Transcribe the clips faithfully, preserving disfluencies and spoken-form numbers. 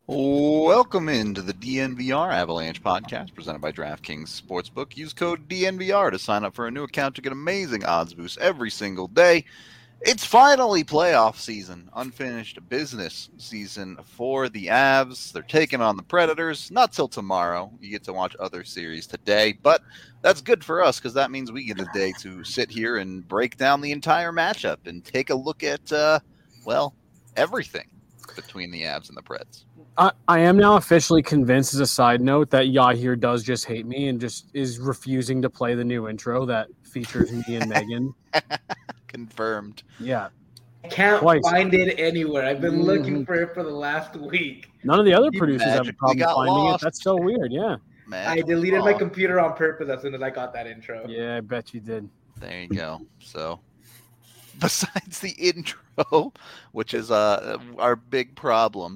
Welcome into the D N V R Avalanche podcast presented by DraftKings Sportsbook. Use code D N V R to sign up for a new account to get amazing odds boosts every single day. It's finally playoff season, unfinished business season for the Avs. They're taking on the Predators. Not till tomorrow. You get to watch other series today, but that's good for us because that means we get a day to sit here and break down the entire matchup and take a look at, uh, well, everything between the Avs and the Preds. I, I am now officially convinced, as a side note, that Yahir does just hate me and just is refusing to play the new intro that features me and Megan. Confirmed. Yeah. I can't Twice. find it anywhere. I've been Mhm. looking for it for the last week. None of the other You producers have a magically problem got finding lost. it. That's so weird. Yeah. Magic I deleted my law. computer on purpose as soon as I got that intro. Yeah, I bet you did. There you go. So, besides the intro, which is uh, our big problem,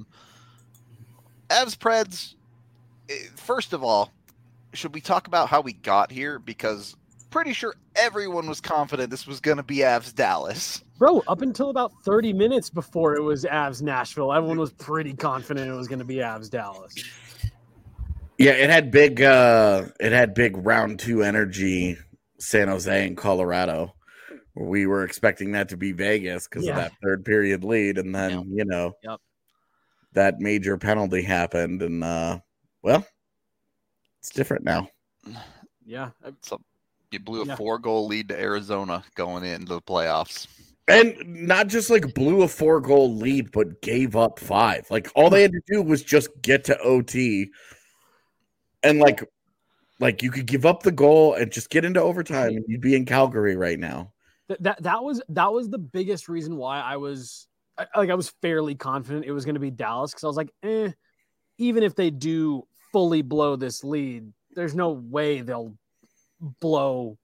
Avs Preds, eh, first of all, should we talk about how we got here? Because pretty sure everyone was confident this was going to be Avs Dallas. Bro, up until about thirty minutes before it was Avs Nashville, everyone was pretty confident it was going to be Avs Dallas. Yeah, it had big uh it had big round two energy, San Jose and Colorado. We were expecting that to be Vegas because Yeah. of that third period lead, and then Yep. you know Yep. that major penalty happened, and uh well, it's different now. Yeah. I- So, you blew a Yeah. four-goal lead to Arizona going into the playoffs. And not just like blew a four goal lead, but gave up five. Like all they had to do was just get to O T, and like like you could give up the goal and just get into overtime, and you'd be in Calgary right now. That, that that was that was the biggest reason why I was I, like I was fairly confident it was going to be Dallas, because I was like, eh, even if they do fully blow this lead, there's no way they'll blow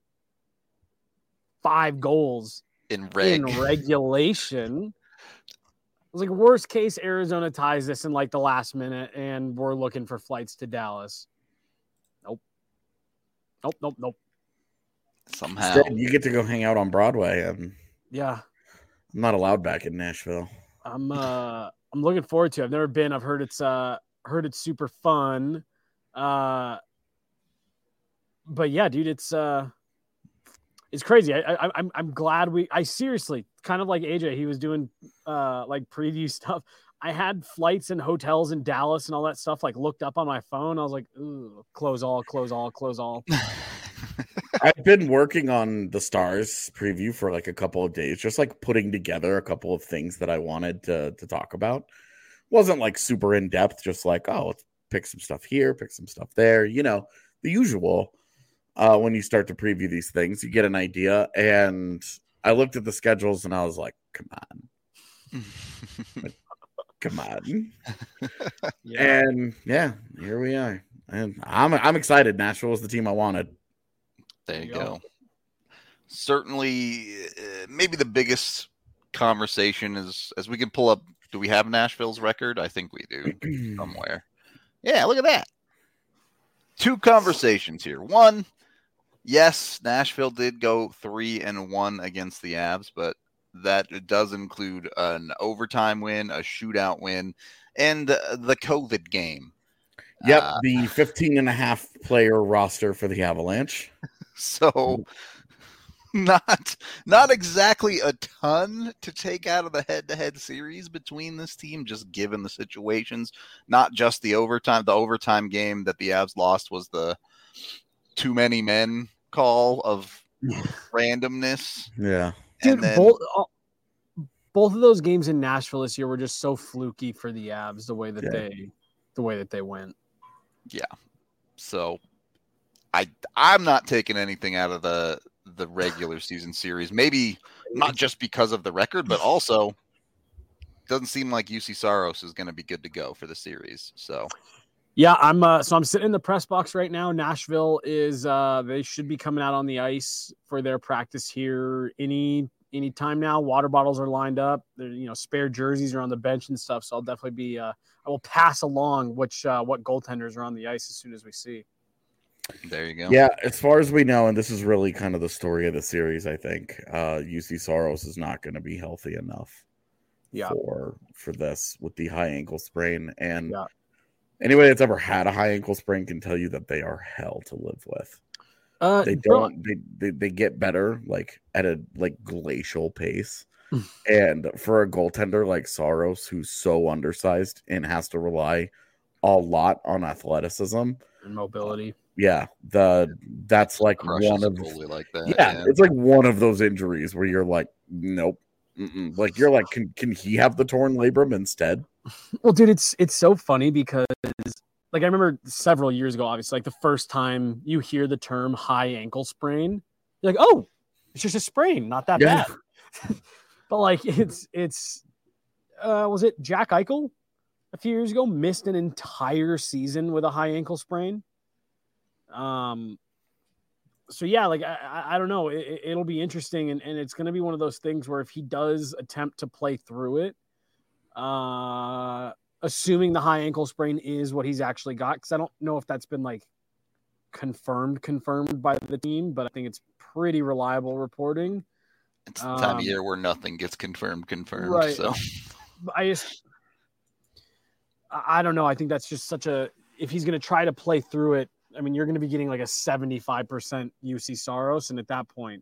five goals In reg. in regulation. It was like, worst case, Arizona ties this in like the last minute, and we're looking for flights to Dallas. Nope. Nope. Nope. Nope. Somehow. Instead, you get to go hang out on Broadway. I'm, Yeah. I'm not allowed back in Nashville. I'm uh I'm looking forward to it. I've never been. I've heard it's uh heard it's super fun. Uh but yeah, dude, it's uh it's crazy. I, I I'm I'm glad we I seriously kind of like A J, he was doing uh like preview stuff. I had flights and hotels in Dallas and all that stuff like looked up on my phone. I was like, ooh, close all, close all, close all. I've been working on the Stars preview for like a couple of days, just like putting together a couple of things that I wanted to, to talk about. Wasn't like super in depth, just like, oh, let's pick some stuff here, pick some stuff there, you know, the usual. Uh, when you start to preview these things, you get an idea. And I looked at the schedules and I was like, come on. Come on. Yeah. And yeah, here we are. And I'm I'm excited. Nashville was the team I wanted. There you There you go. Certainly, uh, maybe the biggest conversation is as we can pull up. Do we have Nashville's record? I think we do somewhere. Yeah, look at that. Two conversations here. One, yes, Nashville did go three and one against the Avs, but that does include an overtime win, a shootout win, and uh, the COVID game. Yep, Uh, the fifteen and a half player roster for the Avalanche. So not not exactly a ton to take out of the head-to-head series between this team, just given the situations. Not just the overtime. The overtime game that the Avs lost was the too many men call of randomness. Yeah. Dude, And then, both uh, both of those games in Nashville this year were just so fluky for the Avs, the way that Yeah. they the way that they went. so I I'm not taking anything out of the the regular season series. Maybe not just because of the record, but also doesn't seem like U C Saros is going to be good to go for the series. So Yeah, I'm uh, so I'm sitting in the press box right now. Nashville is uh, they should be coming out on the ice for their practice here any any time now. Water bottles are lined up. There, you know, spare jerseys are on the bench and stuff. So I'll definitely be uh, I will pass along which uh, what goaltenders are on the ice as soon as we see. there you go. Yeah, as far as we know, and this is really kind of the story of the series, I think, uh, U C Saros is not going to be healthy enough Yeah. for for this with the high ankle sprain. And Yeah. anybody that's ever had a high ankle sprain can tell you that they are hell to live with. Uh, They Bill- don't they, they they get better like at a like glacial pace. And for a goaltender like Saros, who's so undersized and has to rely a lot on athleticism and mobility. yeah, the that's like Crushes one a of goalie like that. yeah, Yeah, it's like one of those injuries where you're like, nope. Mm-mm. Like you're like, can can he have the torn labrum instead? Well, dude, it's it's so funny because like I remember several years ago, obviously, like the first time you hear the term high ankle sprain, you're like, oh, it's just a sprain, not that Yeah. bad. But like it's it's uh was it Jack Eichel a few years ago missed an entire season with a high ankle sprain? Um so yeah, like I, I, I don't know. It, it'll be interesting, and, and it's going to be one of those things where if he does attempt to play through it, uh, assuming the high ankle sprain is what he's actually got, because I don't know if that's been like confirmed, confirmed by the team, but I think it's pretty reliable reporting. it's the time Um, of year where nothing gets confirmed, confirmed. right. So I just, I I don't know. I think that's just such a, if he's going to try to play through it, I mean, you're going to be getting like a seventy-five percent U C Saros. And at that point,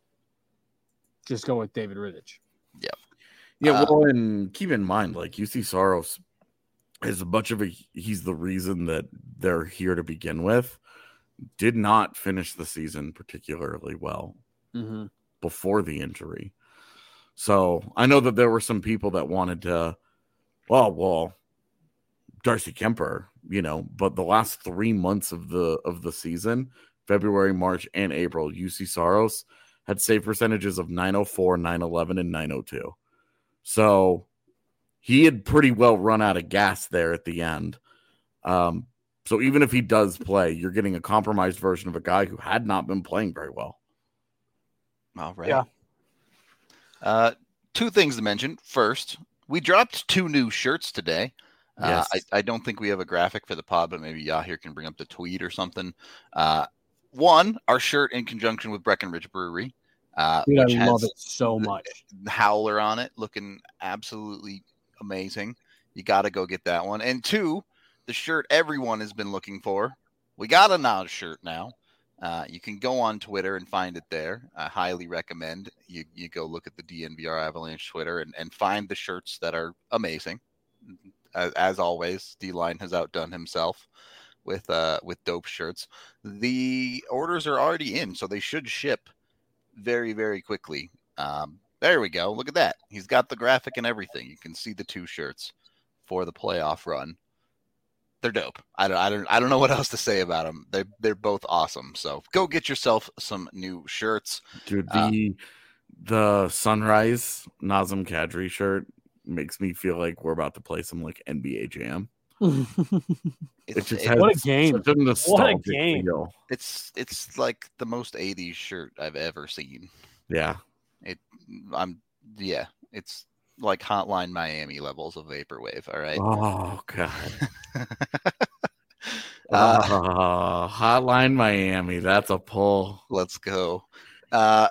just go with David Rittich. Yeah, Uh, well, and keep in mind, like U C Saros is a bunch of a he's the reason that they're here to begin with. Did not finish the season particularly well Mm-hmm. before the injury. So I know that there were some people that wanted to, well, well, Darcy Kemper, you know, but the last three months of the of the season, February, March, and April, U C Saros had save percentages of nine oh four, nine eleven, and nine oh two. So he had pretty well run out of gas there at the end. Um, so even if he does play, you're getting a compromised version of a guy who had not been playing very well. all right. Yeah. Uh, two things to mention. First, we dropped two new shirts today. Uh, Yes. I, I don't think we have a graphic for the pod, but maybe Yahir can bring up the tweet or something. Uh, one, our shirt in conjunction with Breckenridge Brewery, uh, Dude, which I love has it so the- much. the howler on it, looking absolutely amazing. You got to go get that one. And two, the shirt everyone has been looking for. We got a Nas shirt now. Uh, you can go on Twitter and find it there. I highly recommend you, you go look at the D N V R Avalanche Twitter and, and find the shirts that are amazing. As, as always, D-Line has outdone himself with uh, with dope shirts. The orders are already in, so they should ship very, very quickly. Um, there we go. Look at that. He's got the graphic and everything. You can see the two shirts for the playoff run. They're dope. I don't, I don't, I don't know what else to say about them. They, they're both awesome. So go get yourself some new shirts. Dude, Uh, the the Sunrise Nazem Kadri shirt makes me feel like we're about to play some like N B A Jam. It It's, just it- has What a game. such a nostalgic game. feel. it's, it's like the most eighties shirt I've ever seen. Yeah. I'm, yeah, it's like Hotline Miami levels of vaporwave. All right. Oh god. Uh, oh, Hotline Miami. That's a pull. Let's go. Uh,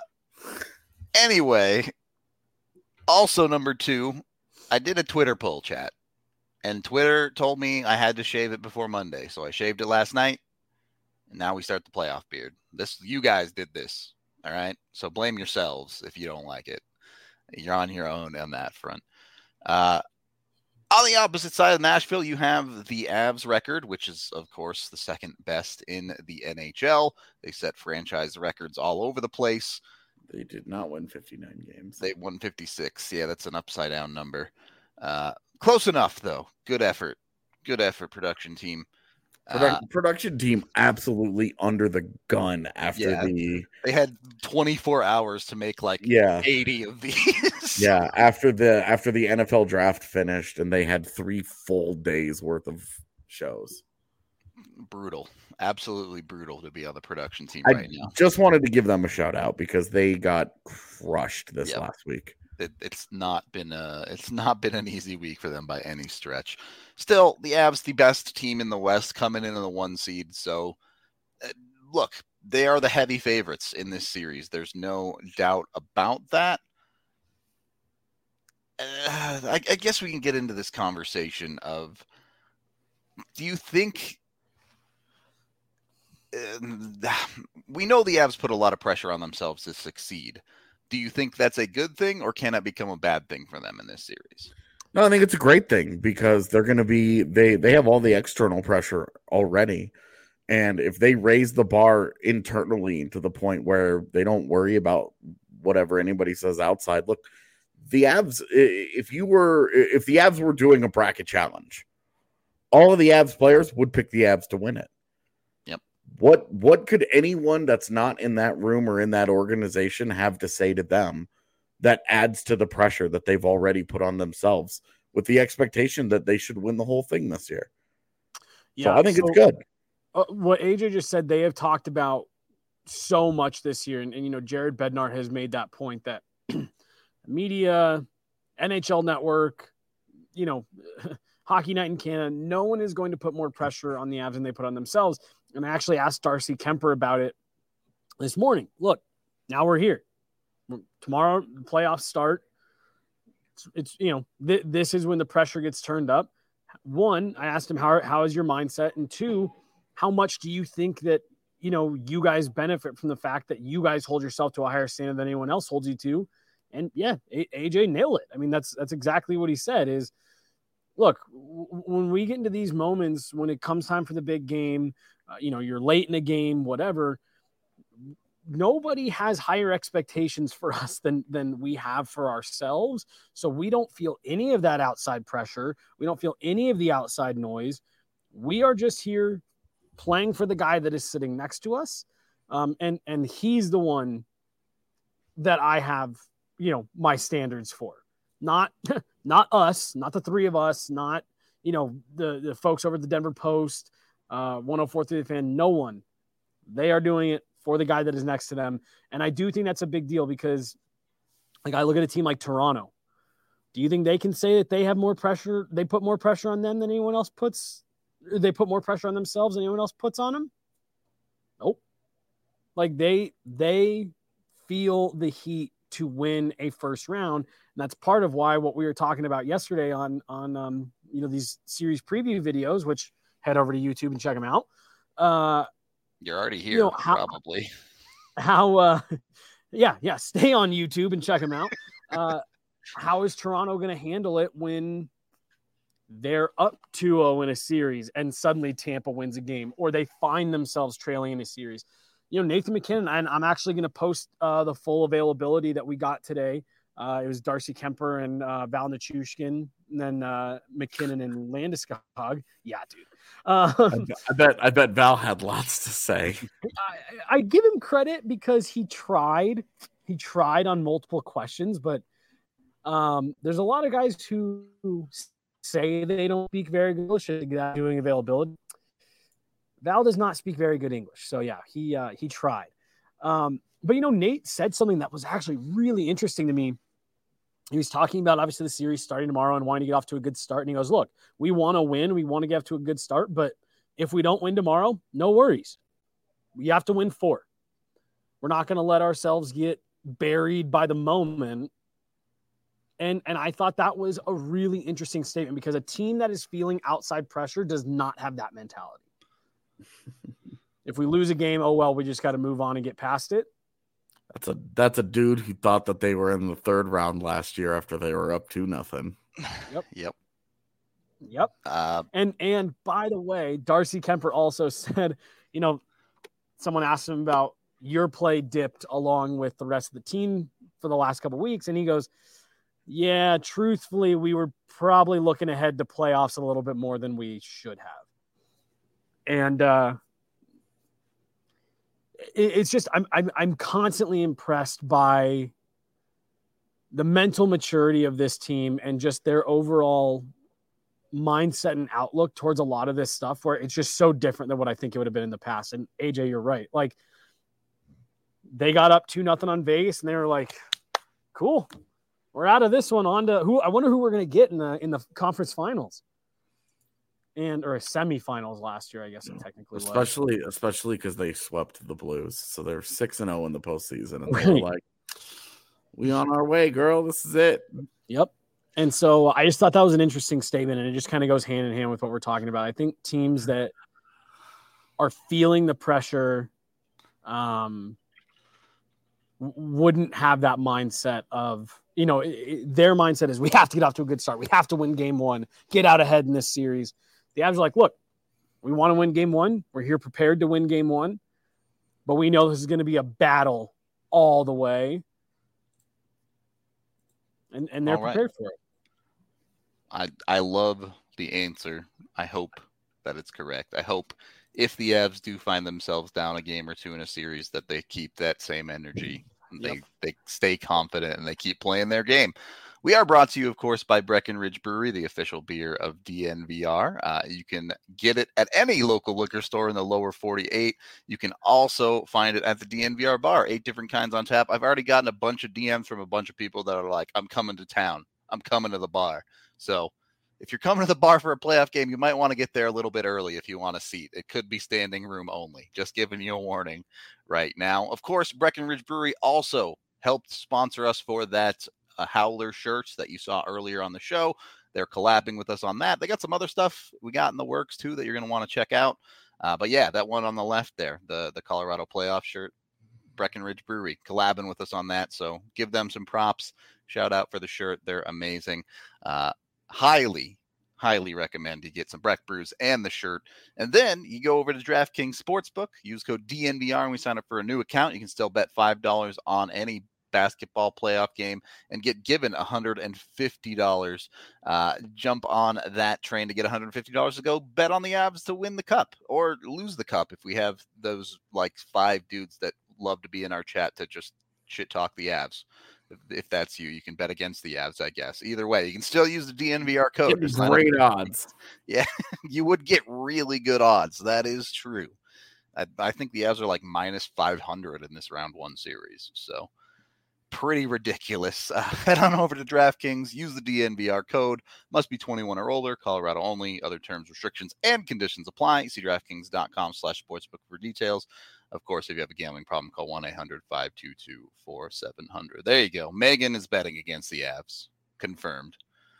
anyway, also number two, I did a Twitter poll chat, and Twitter told me I had to shave it before Monday, so I shaved it last night, and now we start the playoff beard. This, you guys did this, all right? So blame yourselves if you don't like it. You're on your own on that front. Uh, on the opposite side of Nashville, you have the Avs record, which is, of course, the second best in the N H L. They set franchise records all over the place. They did not win fifty-nine games. They won fifty-six. Yeah, that's an upside down number. Uh, close enough, though. Good effort. Good effort, production team. Produc- Uh, production team absolutely under the gun after Yeah. the they had twenty-four hours to make like yeah eighty of these. yeah after the after the N F L draft finished and they had three full days worth of shows. Brutal. Absolutely brutal to be on the production team I right now. just wanted to give them a shout out because they got crushed this Yep. last week. It, it's not been a it's not been an easy week for them by any stretch. Still, the Avs, the best team in the West, coming in in the one seed. So, uh, look, they are the heavy favorites in this series. There's no doubt about that. uh, I, I guess we can get into this conversation of, do you think uh, we know the Avs put a lot of pressure on themselves to succeed? Do you think that's a good thing, or can it become a bad thing for them in this series? No, I think it's a great thing because they're going to be they they have all the external pressure already, and if they raise the bar internally to the point where they don't worry about whatever anybody says outside. Look, the Avs, if you were if the Avs were doing a bracket challenge, all of the Avs players would pick the Avs to win it. Yep. What what could anyone that's not in that room or in that organization have to say to them that adds to the pressure that they've already put on themselves with the expectation that they should win the whole thing this year? Yeah, so I think so, it's good. Uh, what A J just said, they have talked about so much this year, and, and you know, Jared Bednar has made that point that media, N H L Network, you know, Hockey Night in Canada, no one is going to put more pressure on the Avs than they put on themselves. And I actually asked Darcy Kemper about it this morning. Look, now we're here. Tomorrow, the playoffs start. It's, it's you know, th- this is when the pressure gets turned up. One, I asked him, how, how is your mindset? And two, how much do you think that, you know, you guys benefit from the fact that you guys hold yourself to a higher standard than anyone else holds you to? And yeah, A J nailed it. I mean, that's, that's exactly what he said is, look, w- when we get into these moments, when it comes time for the big game, uh, you know, you're late in a game, whatever, nobody has higher expectations for us than, than we have for ourselves. So we don't feel any of that outside pressure. We don't feel any of the outside noise. We are just here playing for the guy that is sitting next to us. Um, and, and he's the one that I have, you know, my standards for. Not, not us, not the three of us, not, you know, the, the folks over at the Denver Post, uh, one oh four point three The Fan, no one. They are doing it for the guy that is next to them. And I do think that's a big deal because, like, I look at a team like Toronto. Do you think they can say that they have more pressure? They put more pressure on them than anyone else puts? They put more pressure on themselves than anyone else puts on them? Nope. Like, they, they feel the heat to win a first round. And that's part of why what we were talking about yesterday on, on um, you know, these series preview videos, which head over to YouTube and check them out. Uh, You're already here, you know, how, probably. How, uh, yeah, yeah, stay on YouTube and check them out. Uh, how is Toronto going to handle it when they're up two oh in a series and suddenly Tampa wins a game, or they find themselves trailing in a series? You know, Nathan MacKinnon, and I'm actually going to post uh, the full availability that we got today. Uh, it was Darcy Kemper and uh, Val Nichushkin, and then uh, McKinnon and Landeskog. Yeah, dude. Uh, I, bet, I bet I bet Val had lots to say. I, I give him credit because he tried. He tried on multiple questions, but um, there's a lot of guys who, who say they don't speak very good English and doing availability. Val does not speak very good English, so yeah, he uh, he tried. Um, but you know, Nate said something that was actually really interesting to me. He was talking about obviously the series starting tomorrow and wanting to get off to a good start. And he goes, look, we want to win. We want to get off to a good start. But if we don't win tomorrow, no worries. We have to win four. We're not going to let ourselves get buried by the moment. And, and I thought that was a really interesting statement because a team that is feeling outside pressure does not have that mentality. If we lose a game, oh, well, we just got to move on and get past it. That's a that's a dude who thought that they were in the third round last year after they were up two nothing. Yep. Yep. Yep. Uh, and and by the way, Darcy Kemper also said, you know, someone asked him about your play dipped along with the rest of the team for the last couple of weeks, and he goes, yeah, truthfully, we were probably looking ahead to playoffs a little bit more than we should have. And uh it's just I'm I'm I'm constantly impressed by the mental maturity of this team and just their overall mindset and outlook towards a lot of this stuff where it's just so different than what I think it would have been in the past. And A J, you're right. Like they got up two nothing on Vegas and they were like, cool, we're out of this one on to who I wonder who we're gonna get in the in the conference finals. And or semifinals last year, I guess it technically especially, was. Especially because they swept the Blues. So they're six and zero in the postseason. And they were like, we on our way, girl. This is it. Yep. And so I just thought that was an interesting statement, and it just kind of goes hand in hand with what we're talking about. I think teams that are feeling the pressure um, wouldn't have that mindset of, you know, it, it, their mindset is we have to get off to a good start. We have to win game one, get out ahead in this series. The Avs are like, look, we want to win game one. We're here prepared to win game one, but we know this is going to be a battle all the way. And, and they're All right. prepared for it. I I love the answer. I hope that it's correct. I hope if the Avs do find themselves down a game or two in a series that they keep that same energy. And Yep. They they stay confident and they keep playing their game. We are brought to you, of course, by Breckenridge Brewery, the official beer of D N V R. Uh, you can get it at any local liquor store in the lower forty-eight. You can also find it at the D N V R bar, eight different kinds on tap. I've already gotten a bunch of D Ms from a bunch of people that are like, I'm coming to town. I'm coming to the bar. So if you're coming to the bar for a playoff game, you might want to get there a little bit early if you want a seat. It could be standing room only. Just giving you a warning right now. Of course, Breckenridge Brewery also helped sponsor us for that uh, Howler shirts that you saw earlier on the show. They're collabing with us on that. They got some other stuff we got in the works too that you're going to want to check out. Uh, but yeah, that one on the left there, the, the Colorado playoff shirt, Breckenridge Brewery collabing with us on that. So give them some props. Shout out for the shirt. They're amazing. Uh, highly, highly recommend you get some Breck Brews and the shirt. And then you go over to DraftKings Sportsbook, use code D N V R, and we sign up for a new account. You can still bet five dollars on any basketball playoff game and get given one hundred fifty dollars. Uh, jump on that train to get one hundred fifty dollars to go bet on the Avs to win the cup or lose the cup if we have those like five dudes that love to be in our chat to just shit talk the Avs. If that's you, you can bet against the Avs, I guess. Either way, you can still use the D N V R code. Get great odds. Yeah, you would get really good odds. That is true. I, I think the Avs are like minus five hundred in this round one series. So pretty ridiculous. Uh, head on over to DraftKings. Use the D N V R code. Must be twenty-one or older. Colorado only. Other terms, restrictions, and conditions apply. See DraftKings.com slash sportsbook for details. Of course, if you have a gambling problem, call one eight hundred five two two four seven zero zero. There you go. Megan is betting against the Avs. Confirmed.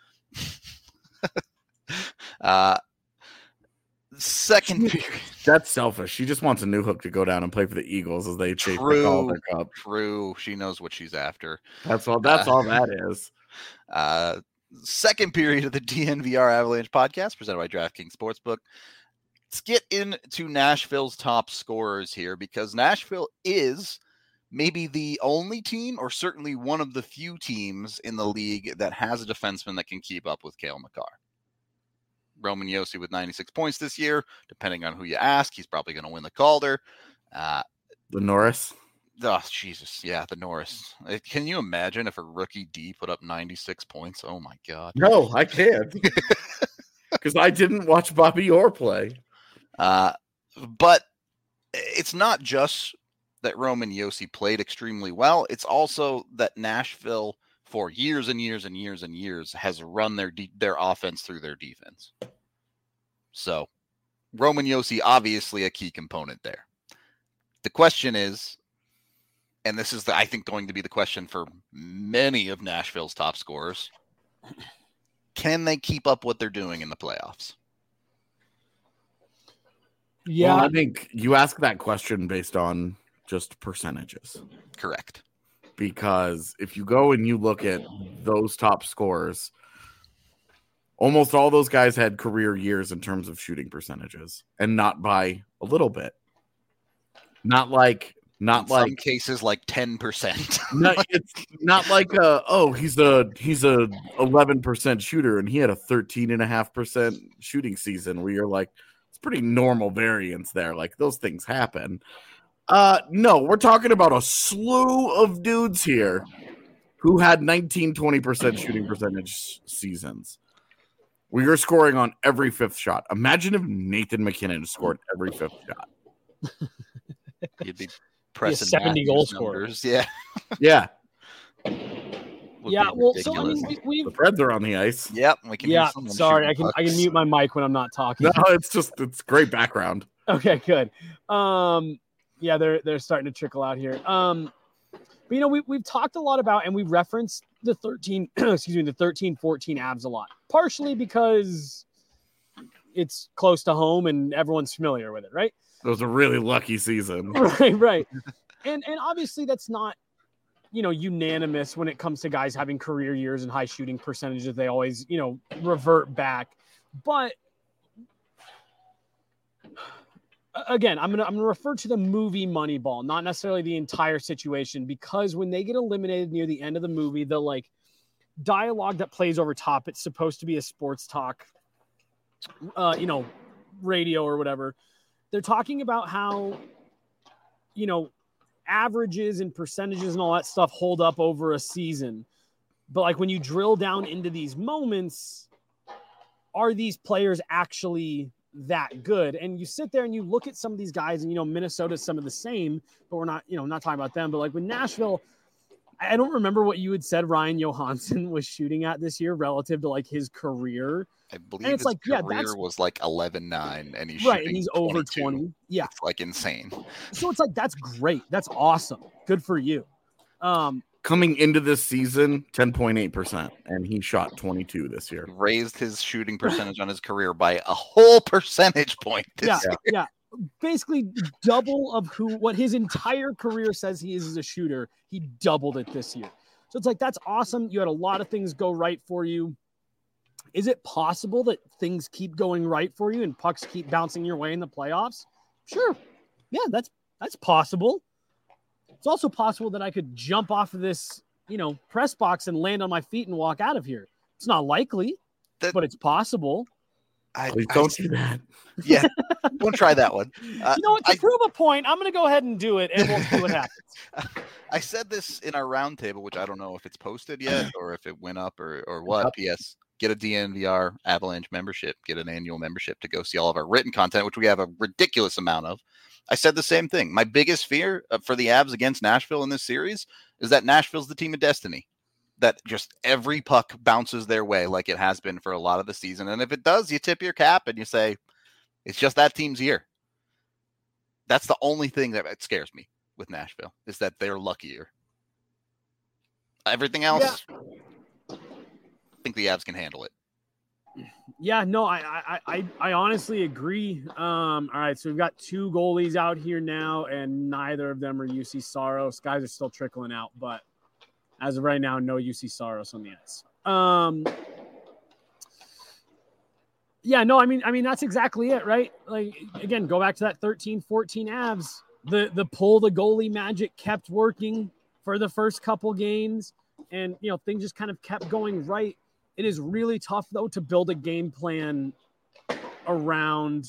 uh, second period. That's selfish. She just wants a new hook to go down and play for the Eagles as they chase the Calder Cup. True. She knows what she's after. That's all. That's Uh, all that is. Uh, second period of the D N V R Avalanche podcast presented by DraftKings Sportsbook. Let's get into Nashville's top scorers here because Nashville is maybe the only team or certainly one of the few teams in the league that has a defenseman that can keep up with Cale Makar. Roman Josi with ninety-six points this year. Depending on who you ask, he's probably going to win the Calder. Uh, The Norris. oh, Jesus. Yeah, the Norris. Uh, Can you imagine if a rookie D put up ninety-six points? Oh, my God. No, I can't. Because I didn't watch Bobby Orr play. Uh, but it's not just that Roman Josi played extremely well. It's also that Nashville, for years and years and years and years, has run their de- their offense through their defense. So Roman Josi, obviously a key component there. The question is, and this is, the, I think, going to be the question for many of Nashville's top scorers, can they keep up what they're doing in the playoffs? Yeah. Well, I think you ask that question based on just percentages. Correct. Because if you go and you look at those top scorers, almost all those guys had career years in terms of shooting percentages, and not by a little bit. Not like, not in like some cases, like ten percent. not, it's not like a, oh, he's a he's a eleven percent shooter and he had a thirteen and a half percent shooting season where you're like, it's pretty normal variance there. Like those things happen. Uh, no, we're talking about a slew of dudes here who had nineteen, twenty percent shooting percentage seasons. We are scoring on every fifth shot. Imagine if Nathan McKinnon scored every fifth shot. You'd be pressing seventy Matthews goal scorer. numbers. Yeah. Yeah, Would Yeah. be Well, so I ridiculous. mean, we, the we've. Preds are on the ice. Yep. We can Yeah. use someone Sorry, I shooting can I can pucks. mute my mic when I'm not talking. No, it's just it's great background. Okay, good. Um, yeah, they're they're starting to trickle out here. Um, but you know, we we've talked a lot about and we referenced the thirteen, excuse me, the thirteen fourteen Avs a lot, partially because it's close to home and everyone's familiar with it, right? It was a really lucky season. Right, right. And and obviously that's not, you know, unanimous when it comes to guys having career years and high shooting percentages. They always, you know, revert back. But again, I'm gonna I'm gonna refer to the movie Moneyball, not necessarily the entire situation, because when they get eliminated near the end of the movie, the like dialogue that plays over top, it's supposed to be a sports talk, uh, you know, radio or whatever. They're talking about how, you know, averages and percentages and all that stuff hold up over a season. But like when you drill down into these moments, are these players actually that good? And you sit there and you look at some of these guys, and, you know, Minnesota's some of the same, but we're not, you know, not talking about them. But like with Nashville, I don't remember what you had said Ryan Johansson was shooting at this year relative to like his career. I believe and it's his like, yeah, career that's was like eleven nine, and he's right, shooting and he's over twenty-two. twenty. Yeah, It's like insane. so it's like that's great. That's awesome. Good for you. Um, Coming into this season, ten point eight percent, and he shot twenty-two this year. Raised his shooting percentage on his career by a whole percentage point. This yeah, year. yeah. Basically double of who what his entire career says he is as a shooter. He doubled it this year. So it's like that's awesome. You had a lot of things go right for you. Is it possible that things keep going right for you and pucks keep bouncing your way in the playoffs? Sure. Yeah, that's that's possible. It's also possible that I could jump off of this, you know, press box and land on my feet and walk out of here. It's not likely, That- but it's possible. I, Please I- don't do that. Yeah, don't try that one. Uh, You know what? To I, prove a point, I'm going to go ahead and do it, and we'll see what happens. I said this in our roundtable, which I don't know if it's posted yet or if it went up or, or what. P S. Get a D N V R Avalanche membership. Get an annual membership to go see all of our written content, which we have a ridiculous amount of. I said the same thing. My biggest fear for the Avs against Nashville in this series is that Nashville's the team of destiny. That just every puck bounces their way like it has been for a lot of the season. And if it does, you tip your cap and you say, it's just that team's year. That's the only thing that scares me with Nashville, is that they're luckier. Everything else, I think the Avs can handle it. Yeah, no, I, I, I, I honestly agree. Um, all right, so we've got two goalies out here now, and neither of them are U C Saros. Guys are still trickling out, but as of right now, no U C Saros on the ice. Um, yeah, no, I mean, I mean that's exactly it, right? Like again, go back to that thirteen fourteen Avs. The the pull the goalie magic kept working for the first couple games, and you know things just kind of kept going right. It is really tough though to build a game plan around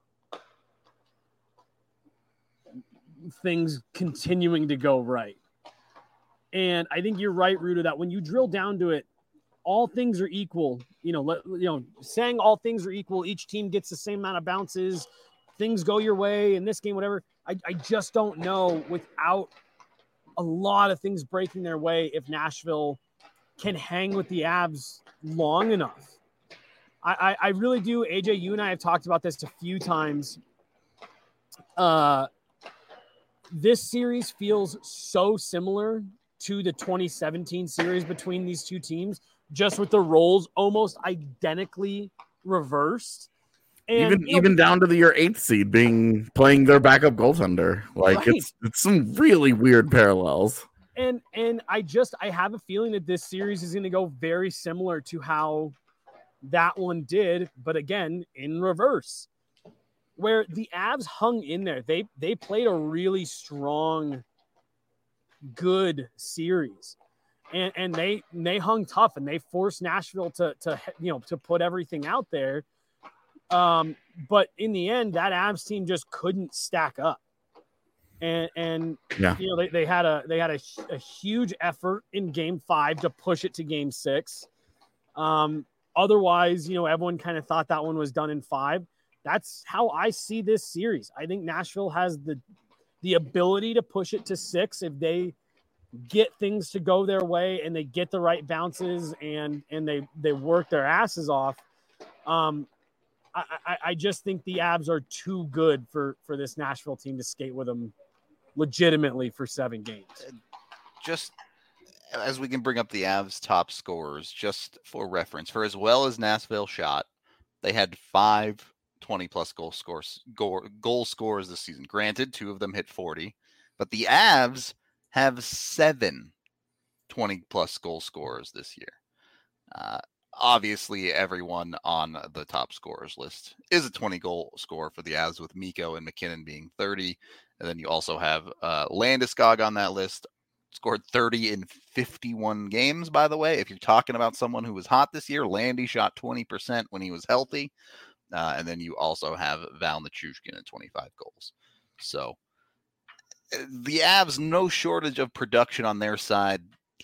things continuing to go right. And I think you're right, Ruda, that when you drill down to it, all things are equal. You know, let, you know, saying all things are equal, each team gets the same amount of bounces, things go your way in this game, whatever. I, I just don't know, without a lot of things breaking their way, if Nashville can hang with the Avs long enough. I, I, I really do. A J, you and I have talked about this a few times. Uh, this series feels so similar to the twenty seventeen series between these two teams, just with the roles almost identically reversed. And, even you know, even down to the your eighth seed being playing their backup goaltender. Like Right. it's it's some really weird parallels. And and I just I have a feeling that this series is going to go very similar to how that one did, but again in reverse, where the Avs hung in there. They they played a really strong, good series, and and they they hung tough, and they forced Nashville to to you know to put everything out there. Um, but in the end, that Avs team just couldn't stack up. And, and Yeah. you know, they, they had a they had a, a huge effort in game five to push it to game six. Um, otherwise, you know, everyone kind of thought that one was done in five. That's how I see this series. I think Nashville has the the ability to push it to six if they get things to go their way and they get the right bounces and and they they work their asses off. Um, I, I, I just think the Avs are too good for for this Nashville team to skate with them legitimately for seven games. Just as we can bring up the Avs top scorers, just for reference, for as well as Nashville shot, they had five twenty-plus goal scores, goal, goal scorers this season. Granted, two of them hit forty, but the Avs have seven twenty-plus goal scorers this year. Uh, obviously, everyone on the top scorers list is a twenty-goal scorer for the Avs, with Mikko and McKinnon being thirty. And then you also have uh, Landeskog on that list, scored thirty in fifty-one games, by the way. If you're talking about someone who was hot this year, Landy shot twenty percent when he was healthy. Uh, and then you also have Val Nichushkin at twenty-five goals. So the Avs, no shortage of production on their side.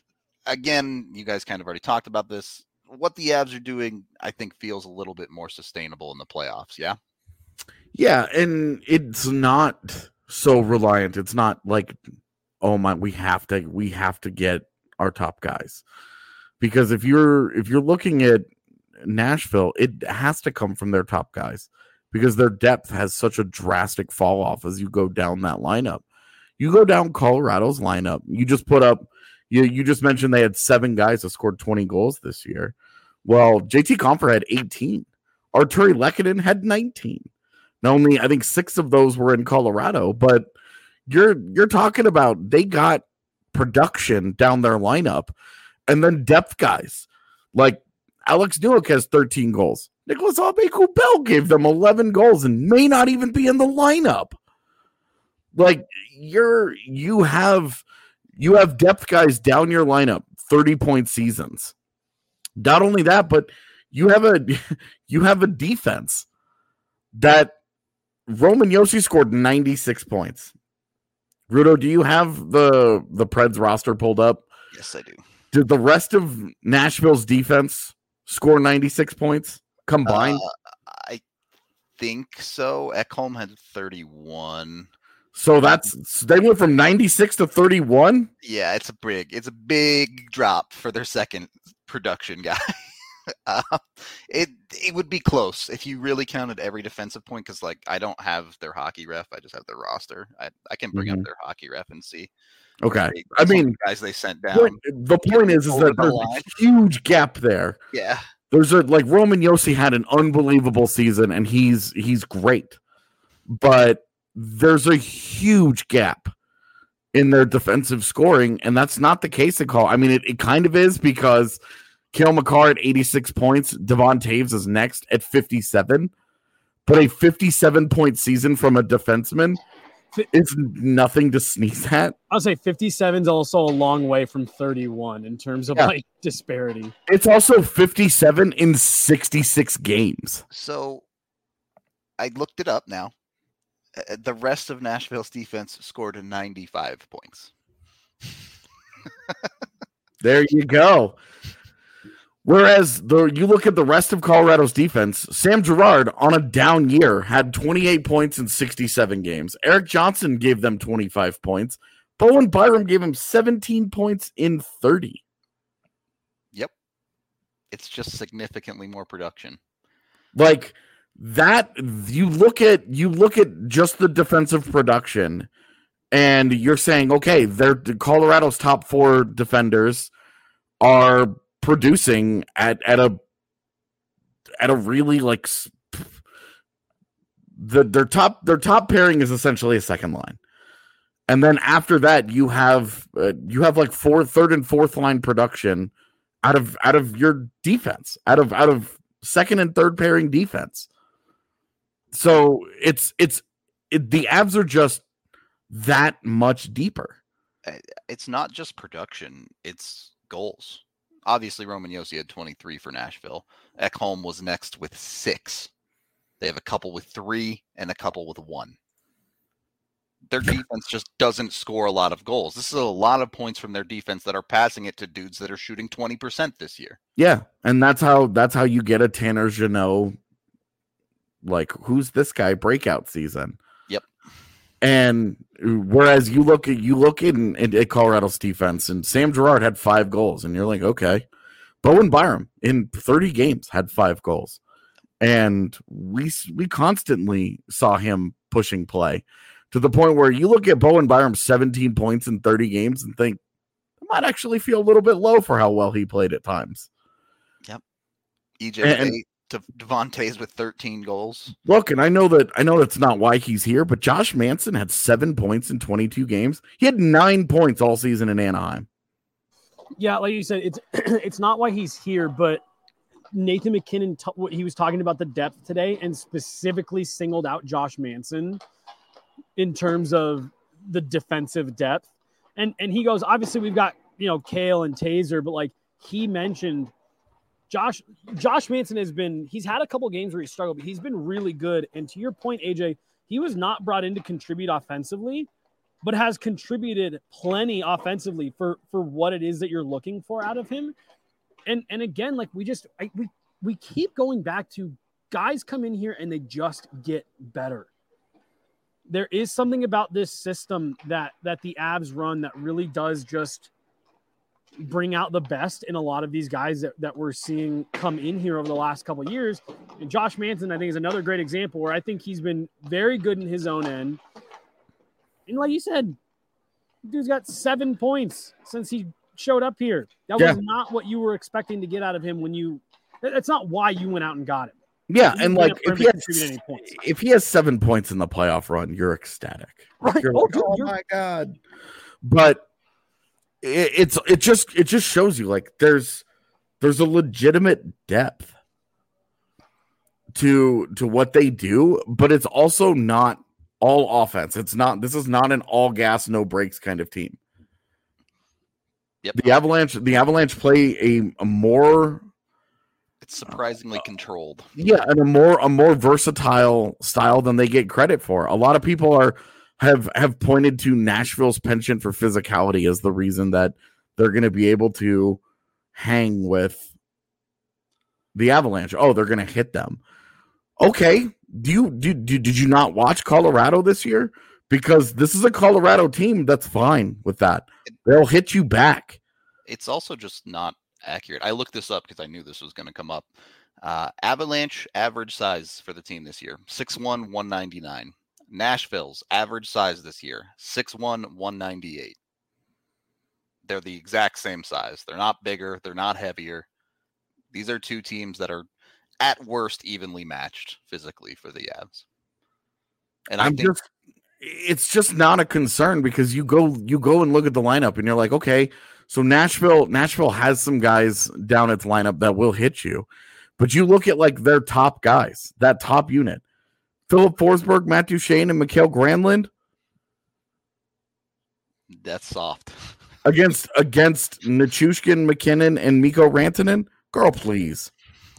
Again, you guys kind of already talked about this. What the Avs are doing, I think, feels a little bit more sustainable in the playoffs, yeah? Yeah, and it's not so reliant. It's not like, oh my, we have to we have to get our top guys. Because if you're if you're looking at Nashville, it has to come from their top guys, because their depth has such a drastic fall off as you go down that lineup. You go down Colorado's lineup, you just put up, you, you just mentioned they had seven guys that scored twenty goals this year. Well, J T Compher had eighteen. Arturi Lehkonen had nineteen. Now, only I think six of those were in Colorado, but you're you're talking about they got production down their lineup, and then depth guys like Alex Newhook has thirteen goals. Nicholas Aube-Kubel gave them eleven goals and may not even be in the lineup. Like you're you have you have depth guys down your lineup, thirty point seasons. Not only that, but you have a you have a defense that Roman Josi scored ninety-six points. Rudo, do you have the the Preds roster pulled up? Yes, I do. Did the rest of Nashville's defense score ninety-six points combined? Uh, I think so. Ekholm had thirty-one. So that's they went from ninety-six to thirty-one? Yeah, it's a big it's a big drop for their second production guy. uh, it it would be close if you really counted every defensive point, because like I don't have their hockey ref, I just have their roster. I, I can bring Mm-hmm. up their hockey ref and see. Okay. They, I mean, guys they sent down. point, the point is, is over that the there's line. a huge gap there. Yeah. There's a like Roman Josi had an unbelievable season and he's he's great. But there's a huge gap in their defensive scoring, and that's not the case at Call. I mean, it, it kind of is, because Cale Makar at eighty-six points, Devon Taves is next at fifty-seven, but a fifty-seven point season from a defenseman is nothing to sneeze at. I'll say fifty-seven is also a long way from thirty-one in terms of Yeah. like disparity. It's also fifty-seven in sixty-six games. So I looked it up now. Uh, The rest of Nashville's defense scored ninety-five points. There you go. Whereas the you look at the rest of Colorado's defense, Sam Girard on a down year had twenty-eight points in sixty-seven games. Eric Johnson gave them twenty-five points. Bowen Byram gave him seventeen points in thirty. Yep. It's just significantly more production. Like that, you look at you look at just the defensive production, and you're saying, okay, they're Colorado's top four defenders are producing at at a at a really like the their top their top pairing is essentially a second line, and then after that you have uh, you have like fourth, third and fourth line production out of out of your defense, out of out of second and third pairing defense. So it's it's it, the Avs are just that much deeper. It's not just production, it's goals. Obviously, Roman Josi had twenty-three for Nashville. Ekholm was next with six. They have a couple with three and a couple with one. Their defense just doesn't score a lot of goals. This is a lot of points from their defense that are passing it to dudes that are shooting twenty percent this year. Yeah, and that's how that's how you get a Tanner Jeannot, like, who's this guy breakout season. Yep. And whereas you look at you look in, in at Colorado's defense, and Sam Girard had five goals, and you're like, okay. Bowen Byram in thirty games had five goals, and we we constantly saw him pushing play to the point where you look at Bowen Byram seventeen points in thirty games and think that might actually feel a little bit low for how well he played at times. Yep. E J And- with eight, De- Devontae's with thirteen goals. Look, and I know that I know that's not why he's here, but Josh Manson had seven points in twenty-two games. He had nine points all season in Anaheim. Yeah, like you said, it's it's not why he's here, but Nathan McKinnon, t- he was talking about the depth today and specifically singled out Josh Manson in terms of the defensive depth. And and he goes, obviously we've got, you know, Kale and Taser, but like he mentioned Josh Josh Manson has been, he's had a couple games where he struggled, but he's been really good. And to your point, A J, he was not brought in to contribute offensively, but has contributed plenty offensively for, for what it is that you're looking for out of him. And and again, like we just I, we we keep going back to guys come in here and they just get better. There is something about this system that that the Avs run that really does just bring out the best in a lot of these guys that, that we're seeing come in here over the last couple of years. And Josh Manson, I think, is another great example where I think he's been very good in his own end. And like you said, dude's got seven points since he showed up here. That Yeah. was not what you were expecting to get out of him when you – that's not why you went out and got him. Yeah, You and didn't like get him if to he, contribute any has, points. if he has seven points in the playoff run, you're ecstatic. Right. You're Oh, like, dude, oh you're- my god! But it, it's it just it just shows you like there's there's a legitimate depth to to what they do, but it's also not all offense. It's not. This is not an all gas no brakes kind of team. Yep. The Avalanche the Avalanche play a, a more It's surprisingly controlled. yeah, and a more a more versatile style than they get credit for. A lot of people are have have pointed to Nashville's penchant for physicality as the reason that they're going to be able to hang with the Avalanche. Oh, they're going to hit them. Okay, do you do, do did you not watch Colorado this year? Because this is a Colorado team that's fine with that. They'll hit you back. It's also just not accurate. I looked this up because I knew this was going to come up. Uh, Avalanche average size for the team this year, six one, one ninety-nine. Nashville's average size this year, six one, one ninety-eight. They're the exact same size. They're not bigger. They're not heavier. These are two teams that are at worst evenly matched physically for the Avs. And I I'm think just it's just not a concern because you go you go and look at the lineup and you're like, okay, so Nashville Nashville has some guys down its lineup that will hit you. But you look at like their top guys, that top unit. Philip Forsberg, Matt Duchene, and Mikael Granlund that's soft. against against Nichushkin, McKinnon, and Mikko Rantanen. Girl, please.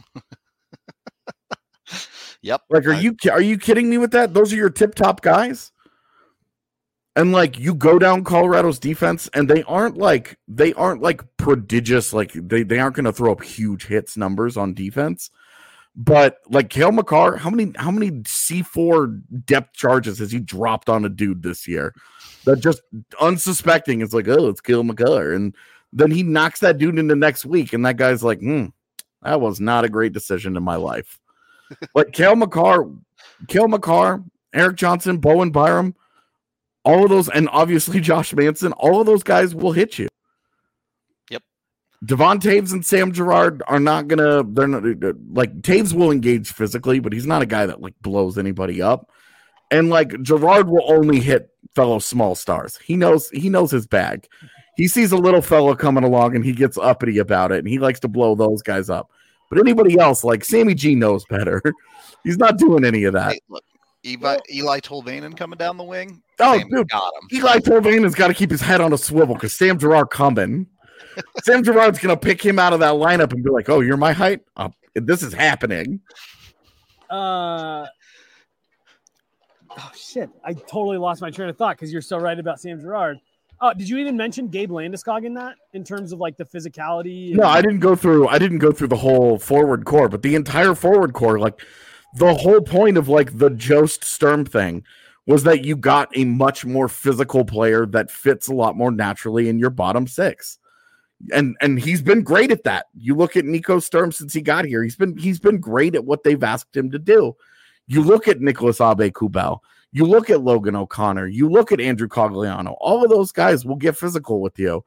Yep. Like, are I- you are you kidding me with that? Those are your tip top guys. And like you go down Colorado's defense, and they aren't like they aren't like prodigious. Like they, they aren't going to throw up huge hits numbers on defense. But like Cale Makar, how many how many C four depth charges has he dropped on a dude this year? That just unsuspecting is like, oh, it's Cale Makar, and then he knocks that dude into next week, and that guy's like, hmm, that was not a great decision in my life. Like Cale Makar, Cale Makar, Eric Johnson, Bowen Byram, all of those, and obviously Josh Manson, all of those guys will hit you. Yep. Devon Taves and Sam Girard are not gonna. They're not like Taves will engage physically, but he's not a guy that like blows anybody up. And like Girard will only hit fellow small stars. He knows he knows his bag. He sees a little fellow coming along and he gets uppity about it, and he likes to blow those guys up. But anybody else, like Sammy G, knows better. He's not doing any of that. Hey, look, Eli, Eli Tolvanen coming down the wing. Oh, Sam dude, got him. Eli Tolvanen's got to keep his head on a swivel because Sam Girard coming. Sam Girard's going to pick him out of that lineup and be like, oh, you're my height? Oh, this is happening. Uh, oh, shit. I totally lost my train of thought because you're so right about Sam Girard. Uh, did you even mention Gabe Landeskog in that in terms of like the physicality? and- No, I didn't go through. I didn't go through the whole forward core, but the entire forward core, like the whole point of like the Jost Sturm thing, was that you got a much more physical player that fits a lot more naturally in your bottom six, and and he's been great at that. You look at Nico Sturm since he got here; he's been he's been great at what they've asked him to do. You look at Nicholas Abe-Kubel. You look at Logan O'Connor. You look at Andrew Cogliano. All of those guys will get physical with you.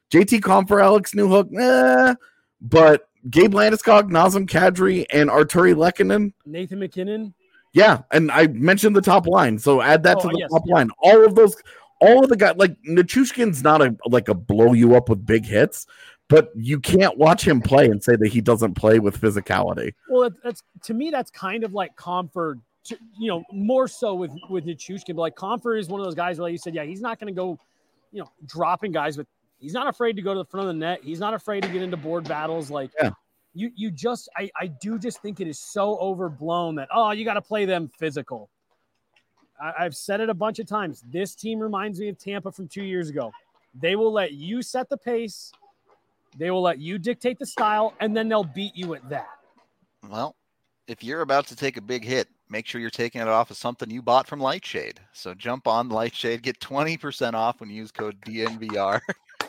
J T Compher, Alex Newhook, eh, but Gabe Landeskog, Nazem Kadri, and Arturi Lehkonen. Nathan McKinnon. Yeah, and I mentioned the top line, so add that Oh, to the yes, top yeah. line. All of those, all of the guys, like Nichushkin's not a like a blow you up with big hits, but you can't watch him play and say that he doesn't play with physicality. Well, that, that's to me, that's kind of like Comfort, you know, more so with with Nichushkin. But like Comfort is one of those guys where like you said, yeah, he's not going to go, you know, dropping guys, but he's not afraid to go to the front of the net. He's not afraid to get into board battles. Like, yeah. you you just, I I do just think it is so overblown that oh, you got to play them physical. I, I've said it a bunch of times. This team reminds me of Tampa from two years ago. They will let you set the pace. They will let you dictate the style, and then they'll beat you at that. Well, if you're about to take a big hit, make sure you're taking it off of something you bought from Lightshade. So jump on Lightshade, get twenty percent off when you use code D N V R.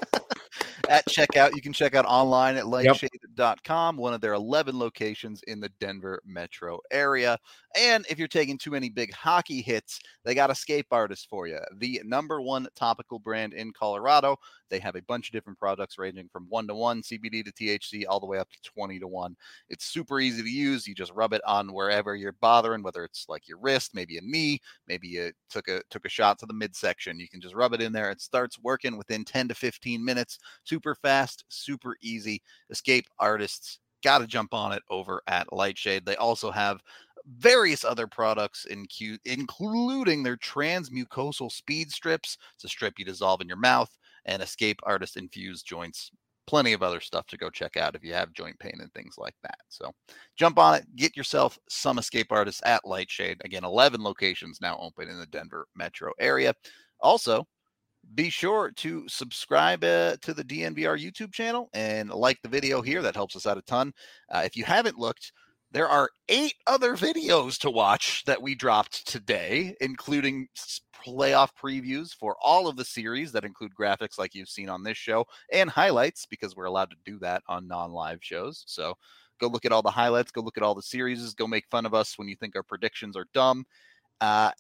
At checkout, you can check out online at lightshade dot com, one of their eleven locations in the Denver metro area. And if you're taking too many big hockey hits, they got Escape Artist for you, the number one topical brand in Colorado. They have a bunch of different products ranging from one to one C B D to T H C all the way up to twenty to one. It's super easy to use. You just rub it on wherever you're bothering, whether it's like your wrist, maybe a knee, maybe you took a took a shot to the midsection. You can just rub it in there. It starts working within ten to fifteen minutes. Super fast, super easy. Escape Artists, got to jump on it over at Lightshade. They also have various other products, in Q, including their transmucosal speed strips. It's a strip you dissolve in your mouth, and Escape Artist infused joints. Plenty of other stuff to go check out if you have joint pain and things like that. So jump on it, get yourself some Escape Artists at Lightshade. Again, eleven locations now open in the Denver metro area. Also, be sure to subscribe uh, to the D N V R YouTube channel and like the video here. That helps us out a ton. Uh, if you haven't looked, there are eight other videos to watch that we dropped today, including playoff previews for all of the series that include graphics like you've seen on this show and highlights, because we're allowed to do that on non-live shows. So go look at all the highlights, go look at all the series, go make fun of us when you think our predictions are dumb. Uh,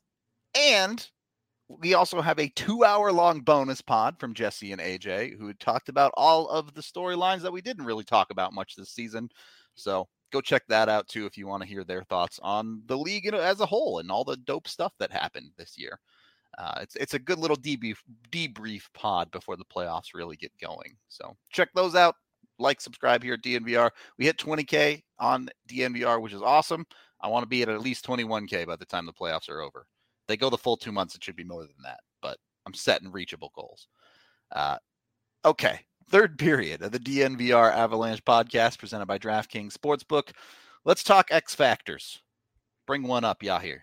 and we also have a two-hour-long bonus pod from Jesse and A J, who had talked about all of the storylines that we didn't really talk about much this season. So go check that out, too, if you want to hear their thoughts on the league as a whole and all the dope stuff that happened this year. Uh, it's it's a good little debrief, debrief pod before the playoffs really get going. So check those out. Like, subscribe here at D N V R. We hit twenty K on D N V R, which is awesome. I want to be at at least twenty-one K by the time the playoffs are over. If they go the full two months, it should be more than that. But I'm setting reachable goals. Uh, okay. Third period of the D N V R Avalanche podcast presented by DraftKings Sportsbook. Let's talk X Factors. Bring one up, Yahir.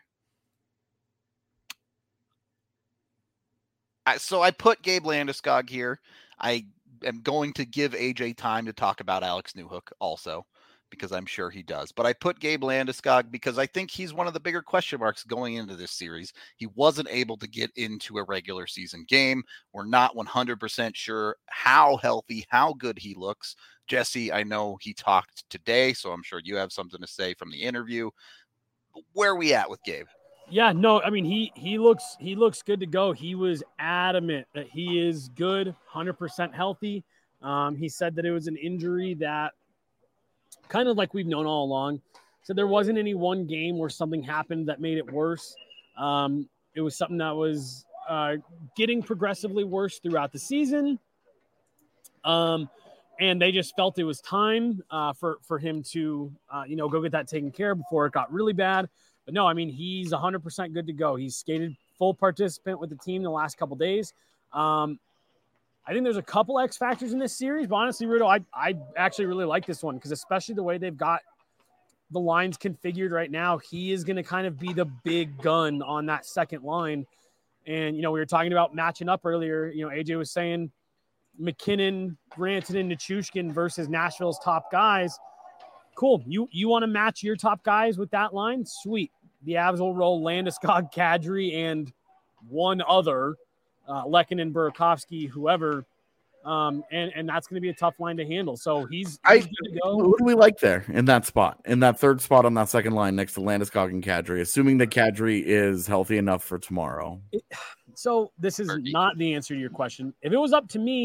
I, so I put Gabe Landeskog here. I am going to give A J time to talk about Alex Newhook also, because I'm sure he does. But I put Gabe Landeskog because I think he's one of the bigger question marks going into this series. He wasn't able to get into a regular season game. We're not one hundred percent sure how healthy, how good he looks. Jesse, I know he talked today, so I'm sure you have something to say from the interview. Where are we at with Gabe? Yeah, no, I mean, he he looks he looks good to go. He was adamant that he is good, one hundred percent healthy. Um, he said that it was an injury that, kind of like we've known all along. So there wasn't any one game where something happened that made it worse. Um, it was something that was uh, getting progressively worse throughout the season. Um, and they just felt it was time uh, for, for him to, uh, you know, go get that taken care of before it got really bad. But no, I mean, he's one hundred percent good to go. He's skated full participant with the team the last couple days. Um, I think there's a couple X factors in this series, but honestly, Rudo, I, I actually really like this one because especially the way they've got the lines configured right now, he is going to kind of be the big gun on that second line. And, you know, we were talking about matching up earlier. You know, A J was saying McKinnon, Rantanen, and Nichushkin versus Nashville's top guys. Cool. You you want to match your top guys with that line? Sweet. The Avs will roll Landeskog, Kadri, and one other, uh, Lehkonen, Burakovsky, whoever. Um, and, and that's going to be a tough line to handle. So he's, he's I, good to go. Who do we like there in that spot, in that third spot on that second line next to Landeskog and Kadri, assuming that Kadri is healthy enough for tomorrow? It, so this is not the answer to your question. If it was up to me,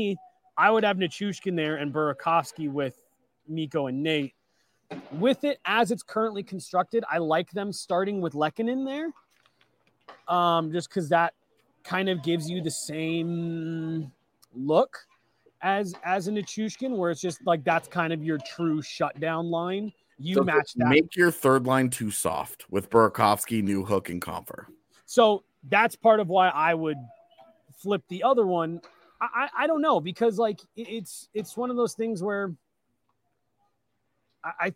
I would have Nichushkin there and Burakovsky with Mikko and Nate. With it as it's currently constructed, I like them starting with Lehkonen there, um, just because that kind of gives you the same look as as a Nichushkin, where it's just like that's kind of your true shutdown line. You So match that. Make your third line too soft with Burakovsky, Newhook, and Compher. So that's part of why I would flip the other one. I, I, I don't know, because like it, it's it's one of those things where I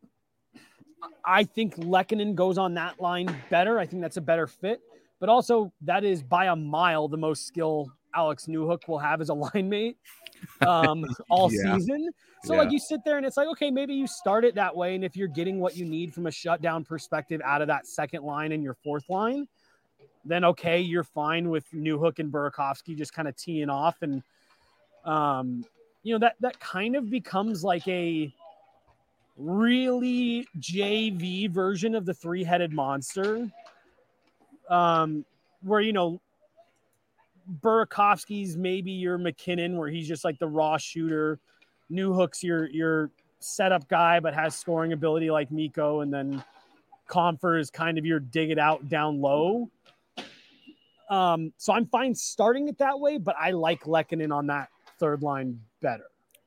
I think Lehkonen goes on that line better. I think that's a better fit. But also, that is by a mile the most skill Alex Newhook will have as a line mate um, all Yeah. season. So, Yeah. like, you sit there and it's like, okay, maybe you start it that way. And if you're getting what you need from a shutdown perspective out of that second line and your fourth line, then okay, you're fine with Newhook and Burakovsky just kind of teeing off. And, um, you know, that that kind of becomes like a really J V version of the three-headed monster, um, where, you know, Burakovsky's maybe your McKinnon, where he's just like the raw shooter. Newhook's your your setup guy, but has scoring ability like Mikko, and then Compher is kind of your dig it out down low. Um, so I'm fine starting it that way, but I like Lehkonen on that third line better.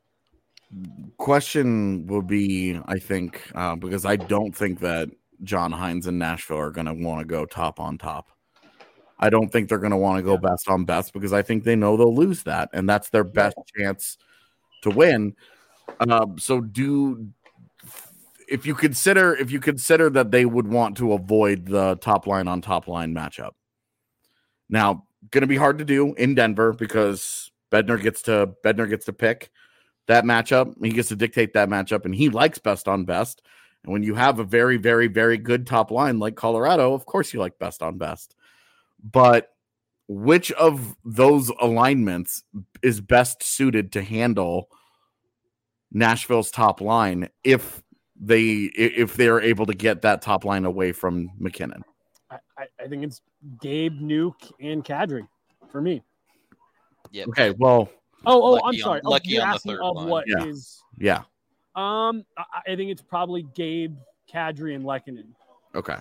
Question would be, I think, uh, because I don't think that John Hines and Nashville are going to want to go top on top. I don't think they're going to want to go Yeah. best on best because I think they know they'll lose that, and that's their best chance to win. Um, so do if you consider if you consider that they would want to avoid the top line on top line matchup. Now, going to be hard to do in Denver because Bednar gets to Bednar gets to pick that matchup. He gets to dictate that matchup, and he likes best on best. And when you have a very, very, very good top line like Colorado, of course you like best on best. But which of those alignments is best suited to handle Nashville's top line if they if they're able to get that top line away from McKinnon? I, I, I think it's Gabe, Nuke, and Kadri for me. Yeah. Okay, well, Oh, oh, Lucky I'm on- sorry. Oh, lucky you're on the asking third of line. what Yeah. is? yeah, Um, I, I think it's probably Gabe, Kadri, and Lehkonen. okay.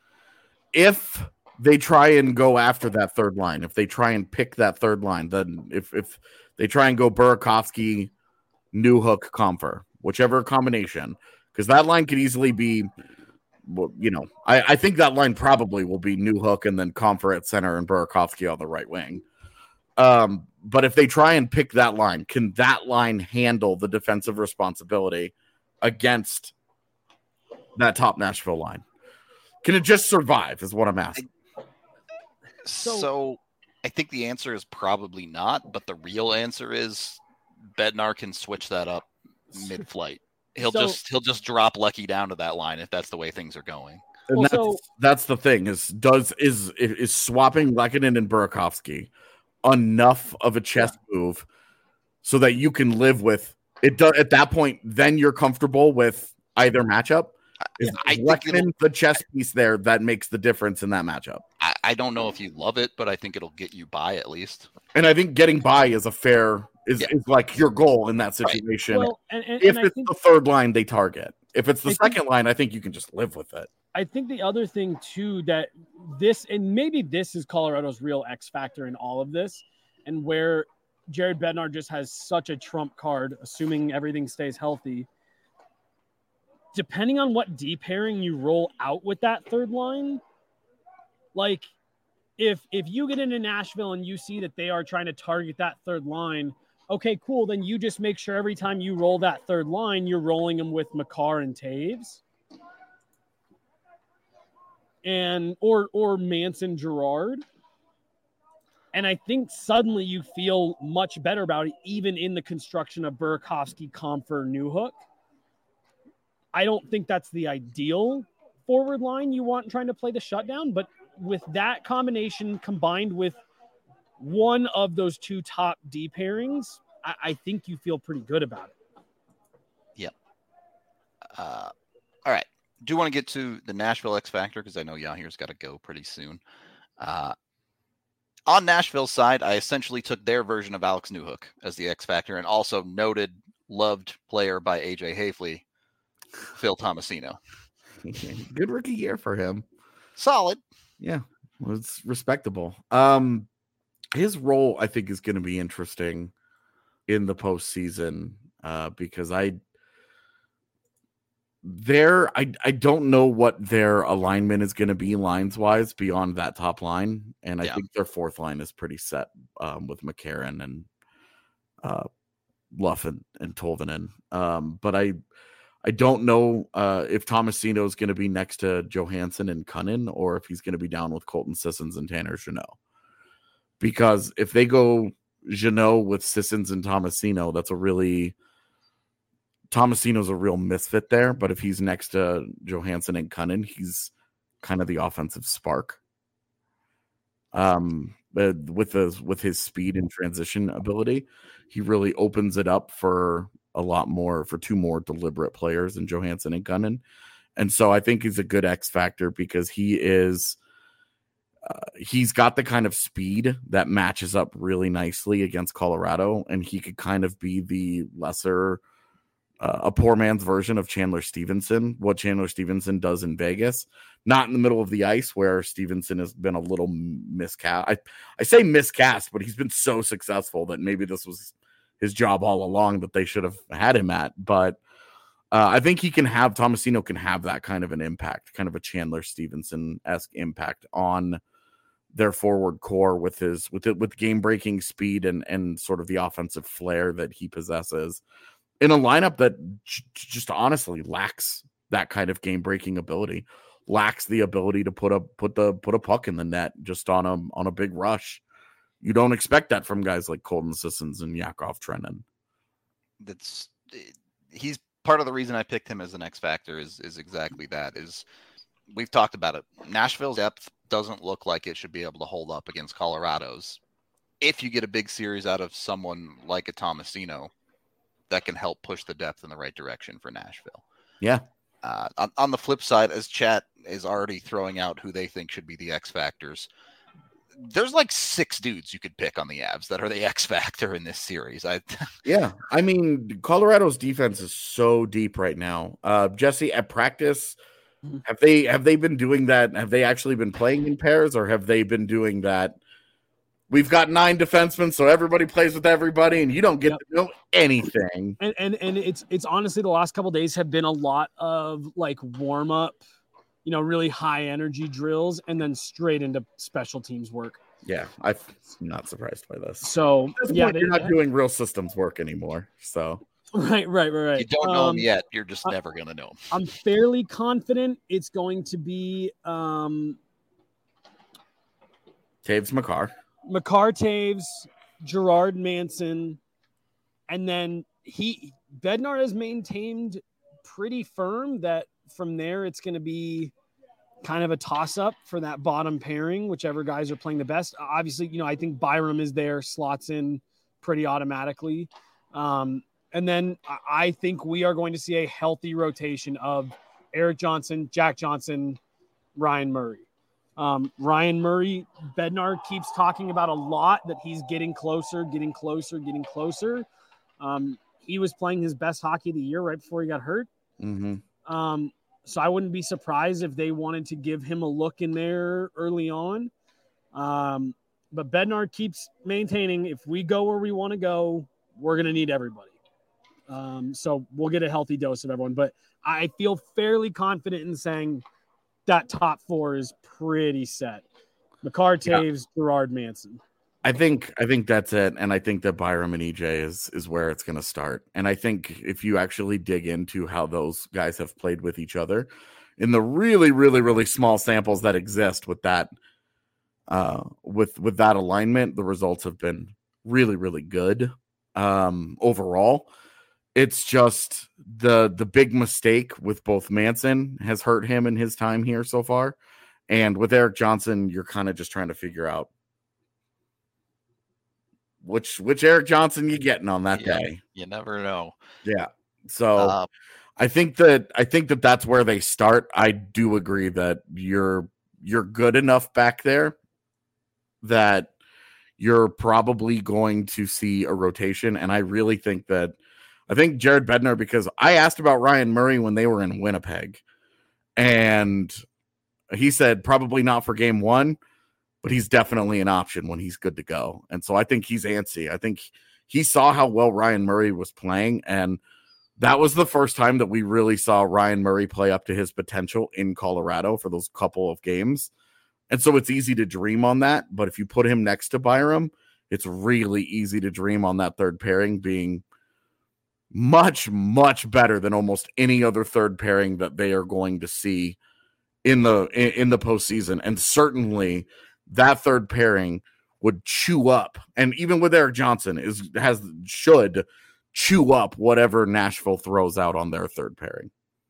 If they try and go after that third line, if they try and pick that third line, then if if they try and go Burakovsky, Newhook, Compher, whichever combination, because that line could easily be, well, you know, I, I think that line probably will be Newhook and then Compher at center and Burakovsky on the right wing. Um, but if they try and pick that line, can that line handle the defensive responsibility against that top Nashville line? Can it just survive is what I'm asking. So, So- I think the answer is probably not, but the real answer is Bednar can switch that up mid-flight. He'll So- just he'll just drop Lucky down to that line if that's the way things are going. And Well, that's, so- that's the thing is does is is swapping Lehkonen and Burakovsky enough of a chess move so that you can live with it. Do, at that point, then you're comfortable with either matchup. Is I think it'll- Lehkonen the chess piece there that makes the difference in that matchup? I, I don't know if you love it, but I think it'll get you by at least. And I think getting by is a fair is, Yeah. is like your goal in that Right. situation. Well, and, and, if and I it's think the third line they target, if it's the I think- second line, I think you can just live with it. I think the other thing too that this and maybe this is Colorado's real X factor in all of this, and where Jared Bednar just has such a trump card, assuming everything stays healthy. Depending on what D pairing you roll out with that third line, like if if you get into Nashville and you see that they are trying to target that third line, okay, cool. Then you just make sure every time you roll that third line, you're rolling them with Makar and Taves. And or or Manson Gerard. And I think suddenly you feel much better about it, even in the construction of Burakovsky, Compher, Newhook. I don't think that's the ideal forward line you want trying to play the shutdown, but with that combination combined with one of those two top D pairings, I, I think you feel pretty good about it. Uh, all right. Do want to get to the Nashville X Factor because I know Yahir's got to go pretty soon. Uh, On Nashville's side, I essentially took their version of Alex Newhook as the X Factor, and also noted, loved player by A J Hafley, Phil Tomasino. Good rookie year for him. Solid. Yeah, well, it's respectable. Um, his role, I think, is going to be interesting in the postseason uh, because I there I I don't know what their alignment is going to be lines wise beyond that top line, and I Yeah. think their fourth line is pretty set um, with McCarron and uh, Luff and, and Tolvanen. Um, but I I don't know uh, if Tomasino is going to be next to Johansson and Cunnin, or if he's going to be down with Colton Sissons and Tanner Jeannot. Because if they go Jeannot with Sissons and Tomasino, that's a really Tomasino's a real misfit there. But if he's next to Johansson and Cunnin, he's kind of the offensive spark. Um, but with the with his speed and transition ability, he really opens it up for a lot more for two more deliberate players than Johansson and Cunnin. And so I think he's a good X factor because he is uh, he's got the kind of speed that matches up really nicely against Colorado, and he could kind of be the lesser uh, a poor man's version of Chandler Stevenson, what Chandler Stevenson does in Vegas, not in the middle of the ice where Stevenson has been a little miscast. I, I say miscast, but he's been so successful that maybe this was his job all along that they should have had him at. But uh, I think he can have, Tomasino can have that kind of an impact, kind of a Chandler Stevenson-esque impact on their forward core with his, with it, with game breaking speed and, and sort of the offensive flair that he possesses in a lineup that j- just honestly lacks that kind of game breaking ability, lacks the ability to put a, put the, put a puck in the net just on a, on a big rush. You don't expect that from guys like Colton Sissons and Yakov Trenin. That's he's part of the reason I picked him as an X factor is is exactly that. Is we've talked about it. Nashville's depth doesn't look like it should be able to hold up against Colorado's. If you get a big series out of someone like a Tomasino, that can help push the depth in the right direction for Nashville. Yeah. Uh, on, on the flip side, as chat is already throwing out who they think should be the X factors, there's like six dudes you could pick on the Avs that are the X factor in this series. I yeah, I mean, Colorado's defense is so deep right now. Uh, Jesse, at practice, have they have they been doing that? Have they actually been playing in pairs, or have they been doing that? We've got nine defensemen, so everybody plays with everybody, and you don't get yep. to know anything. And and and it's it's honestly the last couple of days have been a lot of like warm up, you know, really high energy drills, and then straight into special teams work. Yeah, I'm not surprised by this. So this yeah, point, they, you're not doing real systems work anymore. So right, right, right, right. You don't know um, them yet. You're just I, never gonna know them. I'm fairly confident it's going to be um, Taves Makar. Makar Taves, Gerard Manson, and then he Bednar has maintained pretty firm that from there it's going to be kind of a toss-up for that bottom pairing, whichever guys are playing the best. Obviously, you know, I think Byram is there, slots in pretty automatically. Um, and then I think we are going to see a healthy rotation of Erik Johnson, Jack Johnson, Ryan Murray. Um, Ryan Murray, Bednar keeps talking about a lot that he's getting closer, getting closer, getting closer. Um, he was playing his best hockey of the year right before he got hurt. Mm-hmm. Um, so I wouldn't be surprised if they wanted to give him a look in there early on. Um, but Bednar keeps maintaining, if we go where we want to go, we're going to need everybody. Um, so we'll get a healthy dose of everyone. But I feel fairly confident in saying that top four is pretty set. Makar, Taves, yeah. Gerard, Manson. I think I think that's it, and I think that Byram and E J is is where it's going to start. And I think if you actually dig into how those guys have played with each other, in the really, really, really small samples that exist with that, uh, with with that alignment, the results have been really, really good um, overall. It's just the the big mistake with both Manson has hurt him in his time here so far, and with Erik Johnson, you're kind of just trying to figure out which which Erik Johnson you getting on that yeah, day. You never know. Yeah, so uh, I think that I think that that's where they start. I do agree that you're you're good enough back there that you're probably going to see a rotation. And I really think that I think Jared Bednar, because I asked about Ryan Murray when they were in Winnipeg, and he said probably not for game one, but he's definitely an option when he's good to go. And so I think he's antsy. I think he saw how well Ryan Murray was playing, and that was the first time that we really saw Ryan Murray play up to his potential in Colorado for those couple of games. And so it's easy to dream on that, but if you put him next to Byram, it's really easy to dream on that third pairing being much, much better than almost any other third pairing that they are going to see in the in, in the postseason. And certainly that third pairing would chew up, and even with Erik Johnson is has should chew up whatever Nashville throws out on their third pairing.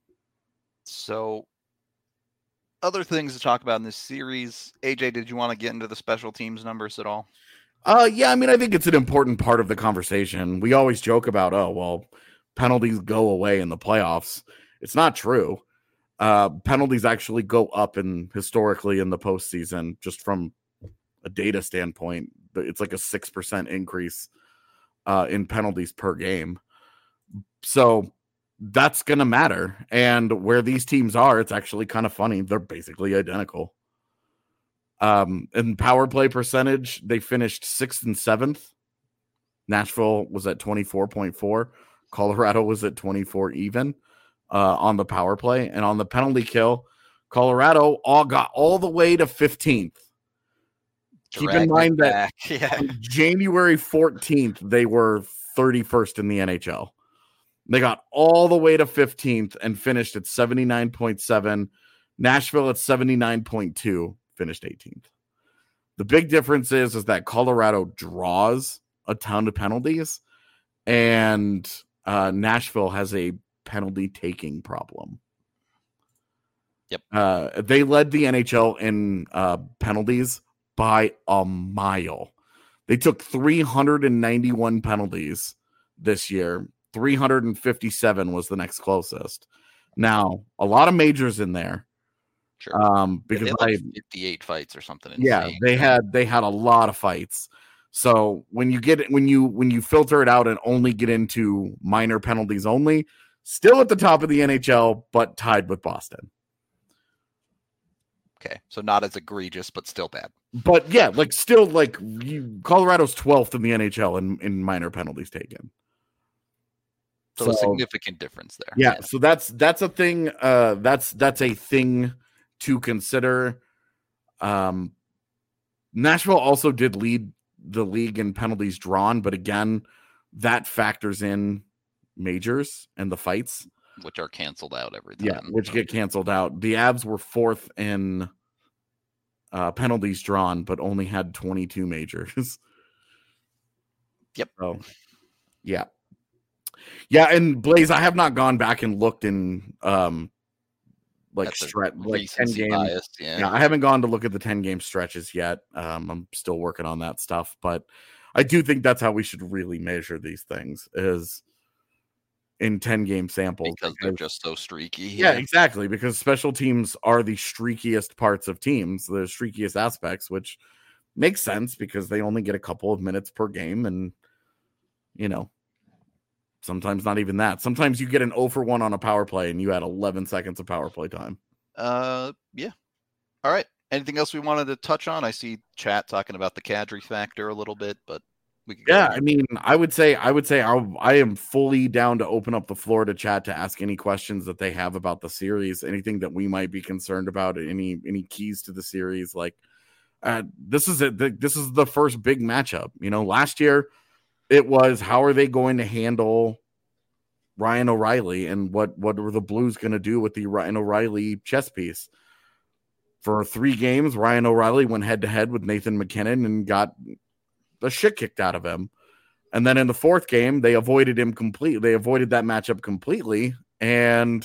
So other things to talk about in this series. A J, did you want to get into the special teams numbers at all? Uh, yeah, I mean, I think it's an important part of the conversation. We always joke about, oh, well, penalties go away in the playoffs. It's not true. Uh, penalties actually go up in historically in the postseason, just from a data standpoint. It's like a six percent increase uh, in penalties per game. So that's going to matter. And where these teams are, it's actually kind of funny. They're basically identical. Um, in power play percentage, they finished sixth and seventh. Nashville was at twenty-four point four. Colorado was at twenty-four even uh, on the power play. And on the penalty kill, Colorado all got all the way to fifteenth. Keep in mind that yeah. on January fourteenth, they were thirty-first in the N H L. They got all the way to fifteenth and finished at seventy-nine point seven. Nashville at seventy-nine point two, finished eighteenth. The big difference is, is that Colorado draws a ton of penalties, and uh, Nashville has a penalty taking problem. Yep. Uh, they led the N H L in uh, penalties by a mile. They took three hundred ninety-one penalties this year. three hundred fifty-seven was the next closest. Now, a lot of majors in there. Sure. Um, because they had like I, fifty-eight fights or something. yeah, insane. they had they had a lot of fights. So when you get when you when you filter it out and only get into minor penalties only, still at the top of the N H L, but tied with Boston. Okay, so not as egregious, but still bad. But yeah, like still like you, Colorado's twelfth in the N H L in, in minor penalties taken. So, So- a significant difference there. Yeah, so that's that's a thing. Uh, that's that's a thing to consider. Um, Nashville also did lead the league in penalties drawn, but again, that factors in majors and the fights. Which are canceled out every time. Yeah, which get canceled out. The Avs were fourth in uh, penalties drawn, but only had twenty-two majors. Yep. So, yeah. Yeah, and Blaze, I have not gone back and looked in um like That's a stretch like ten recency games. bias, yeah. Yeah, I haven't gone to look at the ten game stretches yet. Um, I'm still working on that stuff, but I do think that's how we should really measure these things is in ten game samples because they're just so streaky. yeah, exactly. Because special teams are the streakiest parts of teams, the streakiest aspects, which makes sense because they only get a couple of minutes per game. And, you know, sometimes not even that. Sometimes you get an oh for one on a power play and you had eleven seconds of power play time. Uh, yeah. All right. Anything else we wanted to touch on? I see chat talking about the Kadri factor a little bit, but we could go Yeah, there. I mean, I would say, I would say, I, I am fully down to open up the floor to chat to ask any questions that they have about the series, anything that we might be concerned about, any any keys to the series. Like, uh, this is it. This is the first big matchup. You know, last year it was how are they going to handle Ryan O'Reilly and what what were the Blues going to do with the Ryan O'Reilly chess piece? For three games, Ryan O'Reilly went head to head with Nathan McKinnon and got the shit kicked out of him. And then in the fourth game, they avoided him completely. They avoided that matchup completely. And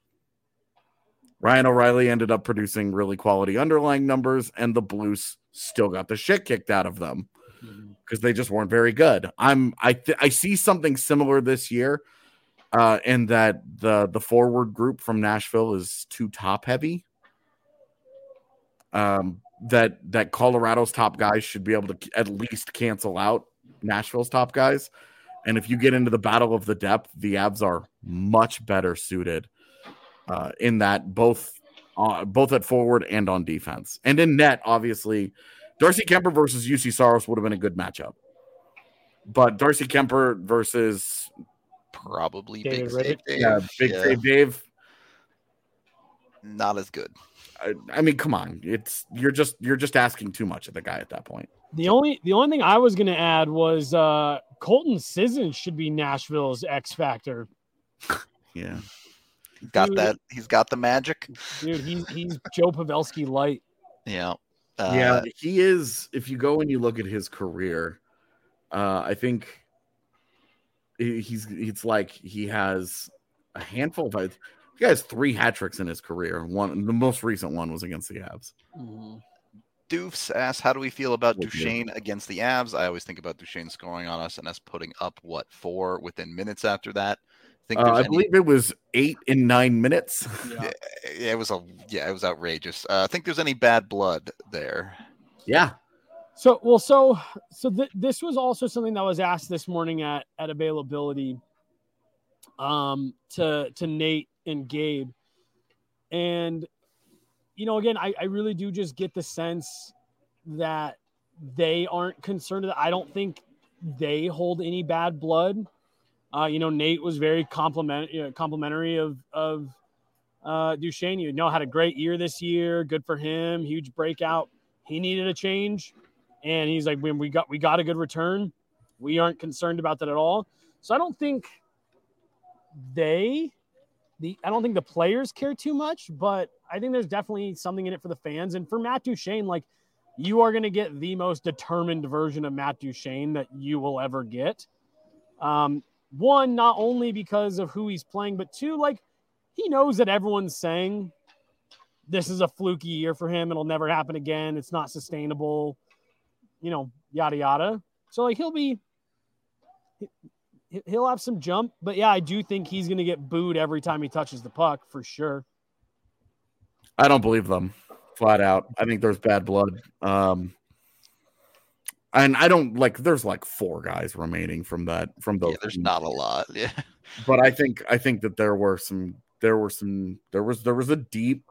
Ryan O'Reilly ended up producing really quality underlying numbers, and the Blues still got the shit kicked out of them because they just weren't very good. I'm I th- I see something similar this year, uh, in that the the forward group from Nashville is too top heavy. Um, that that Colorado's top guys should be able to at least cancel out Nashville's top guys. And if you get into the battle of the depth, the Avs are much better suited uh, in that both uh, both at forward and on defense. And in net, obviously, Darcy Kemper versus U C Saros would have been a good matchup. But Darcy Kemper versus probably David Big Rittich. Save Dave. yeah, Big Yeah, Save Dave. not as good. I, I mean, come on. It's you're just you're just asking too much of the guy at that point. The only the only thing I was going to add was uh, Colton Sissons should be Nashville's X factor. Yeah. Got Dude. that? He's got the magic. Dude, he's he's Joe Pavelski light. Yeah. Uh, yeah, he is. If you go and you look at his career, uh, I think he- he's it's like he has a handful of. He has three hat tricks in his career. One, the most recent one was against the Avs. Doofs asks, how do we feel about Thank you. Duchesne against the Avs? I always think about Duchesne scoring on us and us putting up, what, four within minutes after that? Think Uh, there's I any- believe it was eight in nine minutes. Yeah. Yeah, it was a yeah, it was outrageous. Uh, I think there's any bad blood there. Yeah, So well, so so th- this was also something that was asked this morning at at availability, um, to to Nate and Gabe, and you know, again, I I really do just get the sense that they aren't concerned. I don't think they hold any bad blood. Uh, you know, Nate was very compliment you know, complimentary of of uh, Duchesne. You know, had a great year this year. Good for him. Huge breakout. He needed a change, and he's like, when we got we got a good return, we aren't concerned about that at all. So I don't think they, the I don't think the players care too much, but I think there's definitely something in it for the fans. And for Matt Duchesne, like, you are going to get the most determined version of Matt Duchesne that you will ever get. Um, one, not only because of who he's playing, but two, like, he knows that everyone's saying this is a fluky year for him. It'll never happen again. It's not sustainable, you know, yada, yada. So, like, he'll be, he- he'll have some jump. But, yeah, I do think he's going to get booed every time he touches the puck, for sure. I don't believe them flat out. I think there's bad blood. Um, and I don't like. There's like four guys remaining from that from those. Yeah, there's teams. not a lot. Yeah. But I think I think that there were some. There were some. There was there was a deep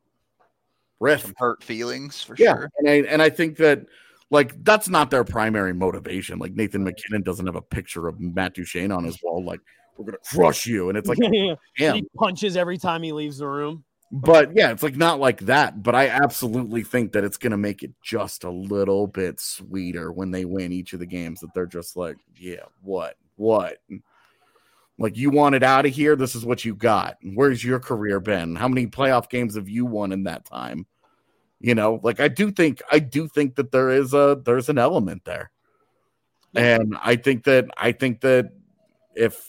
rift. Some hurt feelings for Yeah, sure. and I and I think that like that's not their primary motivation. Like Nathan McKinnon doesn't have a picture of Matt Duchesne on his wall. Like, we're gonna crush you, and it's like, Yeah. damn. He punches every time he leaves the room. But yeah, it's like not like that. But I absolutely think that it's going to make it just a little bit sweeter when they win each of the games. That they're just like, yeah, what, what? Like, you want it out of here. This is what you got. Where's your career been? How many playoff games have you won in that time? You know, like I do think, I do think that there is a there's an element there, and I think that I think that if.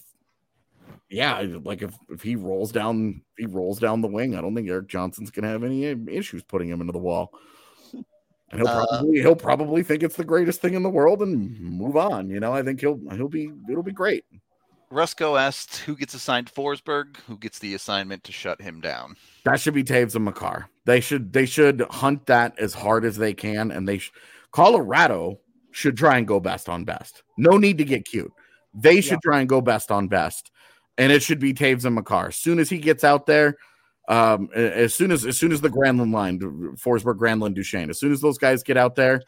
Yeah, like if, if he rolls down, if he rolls down the wing, I don't think Eric Johnson's gonna have any issues putting him into the wall. And he'll Uh, probably he'll probably think it's the greatest thing in the world and move on. You know, I think he'll he'll be it'll be great. Rusco asked who gets assigned Forsberg, who gets the assignment to shut him down. That should be Taves and Makar. They should they should hunt that as hard as they can, and they sh- Colorado should try and go best on best. No need to get cute. They should try and go best on best. And it should be Taves and Makar. As soon as he gets out there, um, as soon as as soon as the Granlund line, Forsberg, Granlund, Duchesne, as soon as those guys get out there,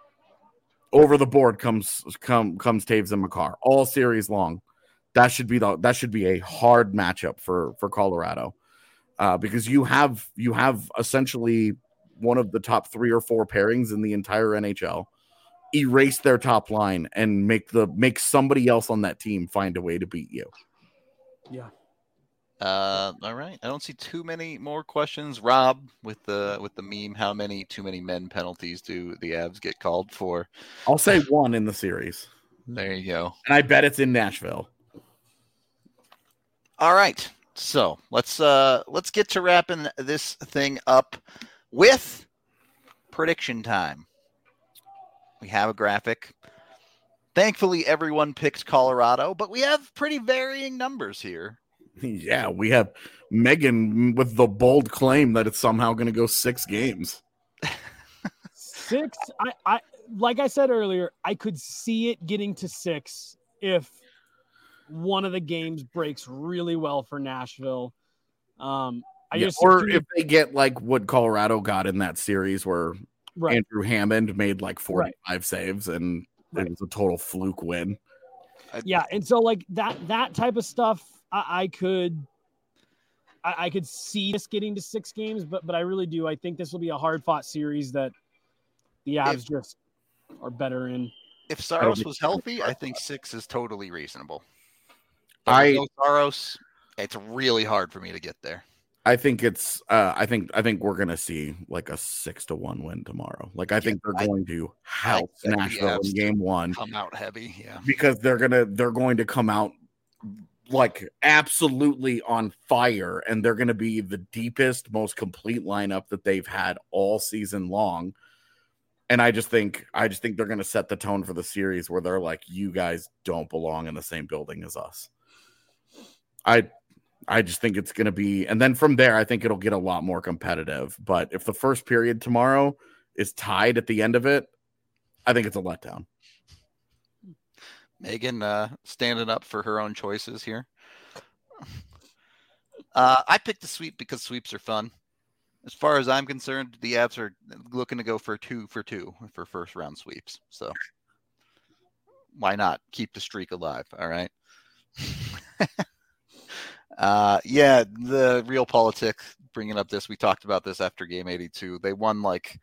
over the board comes come comes Taves and Makar all series long. That should be the that should be a hard matchup for for Colorado, uh, because you have you have essentially one of the top three or four pairings in the entire N H L. Erase their top line and make the make somebody else on that team find a way to beat you. Yeah. Uh, all right. I don't see too many more questions. Rob, with the with the meme, how many too many men penalties do the Avs get called for? I'll say one in the series, There you go. and I bet it's in Nashville. All right. So let's uh let's get to wrapping this thing up with prediction time. We have a graphic. Thankfully, everyone picked Colorado, but we have pretty varying numbers here. Yeah, we have Megan with the bold claim that it's somehow going to go six games. Six, I, I like I said earlier, I could see it getting to six if one of the games breaks really well for Nashville. Um, I Yeah, just or if they get like what Colorado got in that series where right. Andrew Hammond made like forty-five right. saves and right. it was a total fluke win. Yeah, and so like that that type of stuff, I, I could I, I could see this getting to six games, but but I really do. I think this will be a hard fought series that the Avs if, just are better in. If Saros was healthy, I think six is totally reasonable. But I no Saros, it's really hard for me to get there. I think it's. Uh, I think. I think we're gonna see like a six to one win tomorrow. Like I yeah, think they're I, going to help Nashville in game one. Come out heavy, yeah. Because they're gonna. They're going to come out like absolutely on fire, and they're gonna be the deepest, most complete lineup that they've had all season long. And I just think. I just think they're gonna set the tone for the series where they're like, you guys don't belong in the same building as us. I. I just think it's going to be, and then from there, I think it'll get a lot more competitive. But if the first period tomorrow is tied at the end of it, I think it's a letdown. Megan uh, standing up for her own choices here. Uh, I picked the sweep because sweeps are fun. As far as I'm concerned, the Avs are looking to go for two for two for first round sweeps. So why not keep the streak alive? All right. Uh, yeah, the real politics bringing up this. We talked about this after game eighty-two. They won like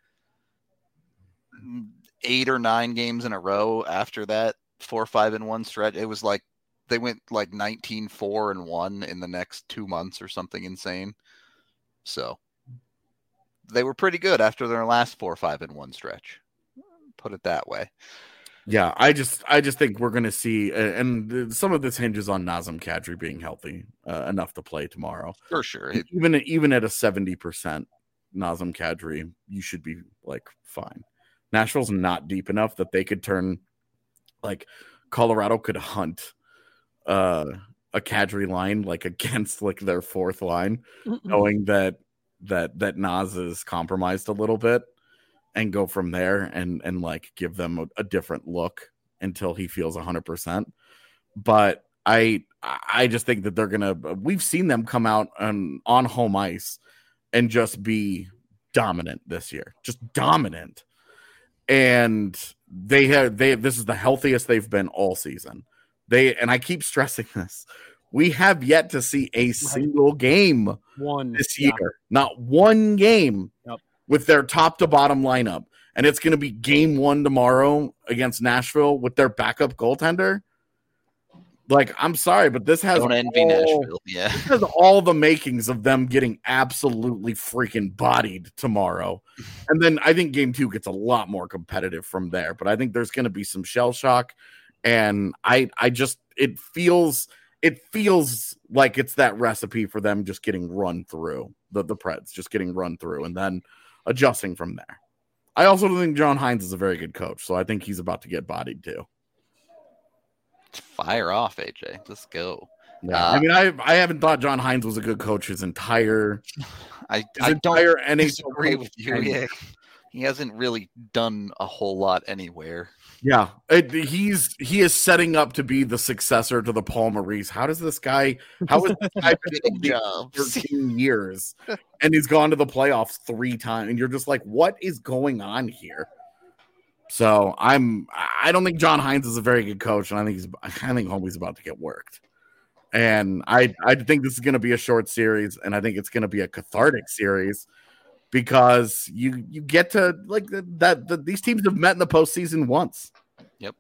eight or nine games in a row after that four, five and one stretch. It was like they went like nineteen, four and one in the next two months or something insane. So they were pretty good after their last four, five and one stretch. Put it that way. Yeah, I just I just think we're going to see, and some of this hinges on Nazem Kadri being healthy uh, enough to play tomorrow. For sure. Even even at a seventy percent Nazem Kadri, you should be like fine. Nashville's not deep enough that they could turn, like Colorado could hunt uh, a Kadri line like against like their fourth line, mm-mm. knowing that that that Naz is compromised a little bit. And go from there and and like give them a, a different look until he feels one hundred percent. But I I just think that they're gonna. We've seen them come out on on home ice and just be dominant this year, just dominant. And they have they this is the healthiest they've been all season. They and I keep stressing this. We have yet to see a single game one this year, yeah. Not one game. Yep. With their top to bottom lineup. And it's going to be game one tomorrow against Nashville with their backup goaltender. Like, I'm sorry, but this has, Don't envy all, Nashville. Yeah. This has all the makings of them getting absolutely freaking bodied tomorrow. And then I think game two gets a lot more competitive from there. But I think there's going to be some shell shock. And I I just, it feels, it feels like it's that recipe for them just getting run through, the, the Preds just getting run through. And then adjusting from there. I also don't think John Hines is a very good coach, so I think he's about to get bodied too. Fire off, A J. Let's go. Yeah, uh, I mean, I I haven't thought John Hines was a good coach his entire. I his I entire don't disagree with you. Yeah. He hasn't really done a whole lot anywhere. Yeah, it, he's he is setting up to be the successor to the Paul Maurice. How does this guy? How is this guy been job thirteen years, and he's gone to the playoffs three times? And you're just like, what is going on here? So I'm. I don't think John Hines is a very good coach, and I think he's. I think Homie's about to get worked. And I I think this is going to be a short series, and I think it's going to be a cathartic series. Because you you get to like that the, these teams have met in the postseason once. Yep.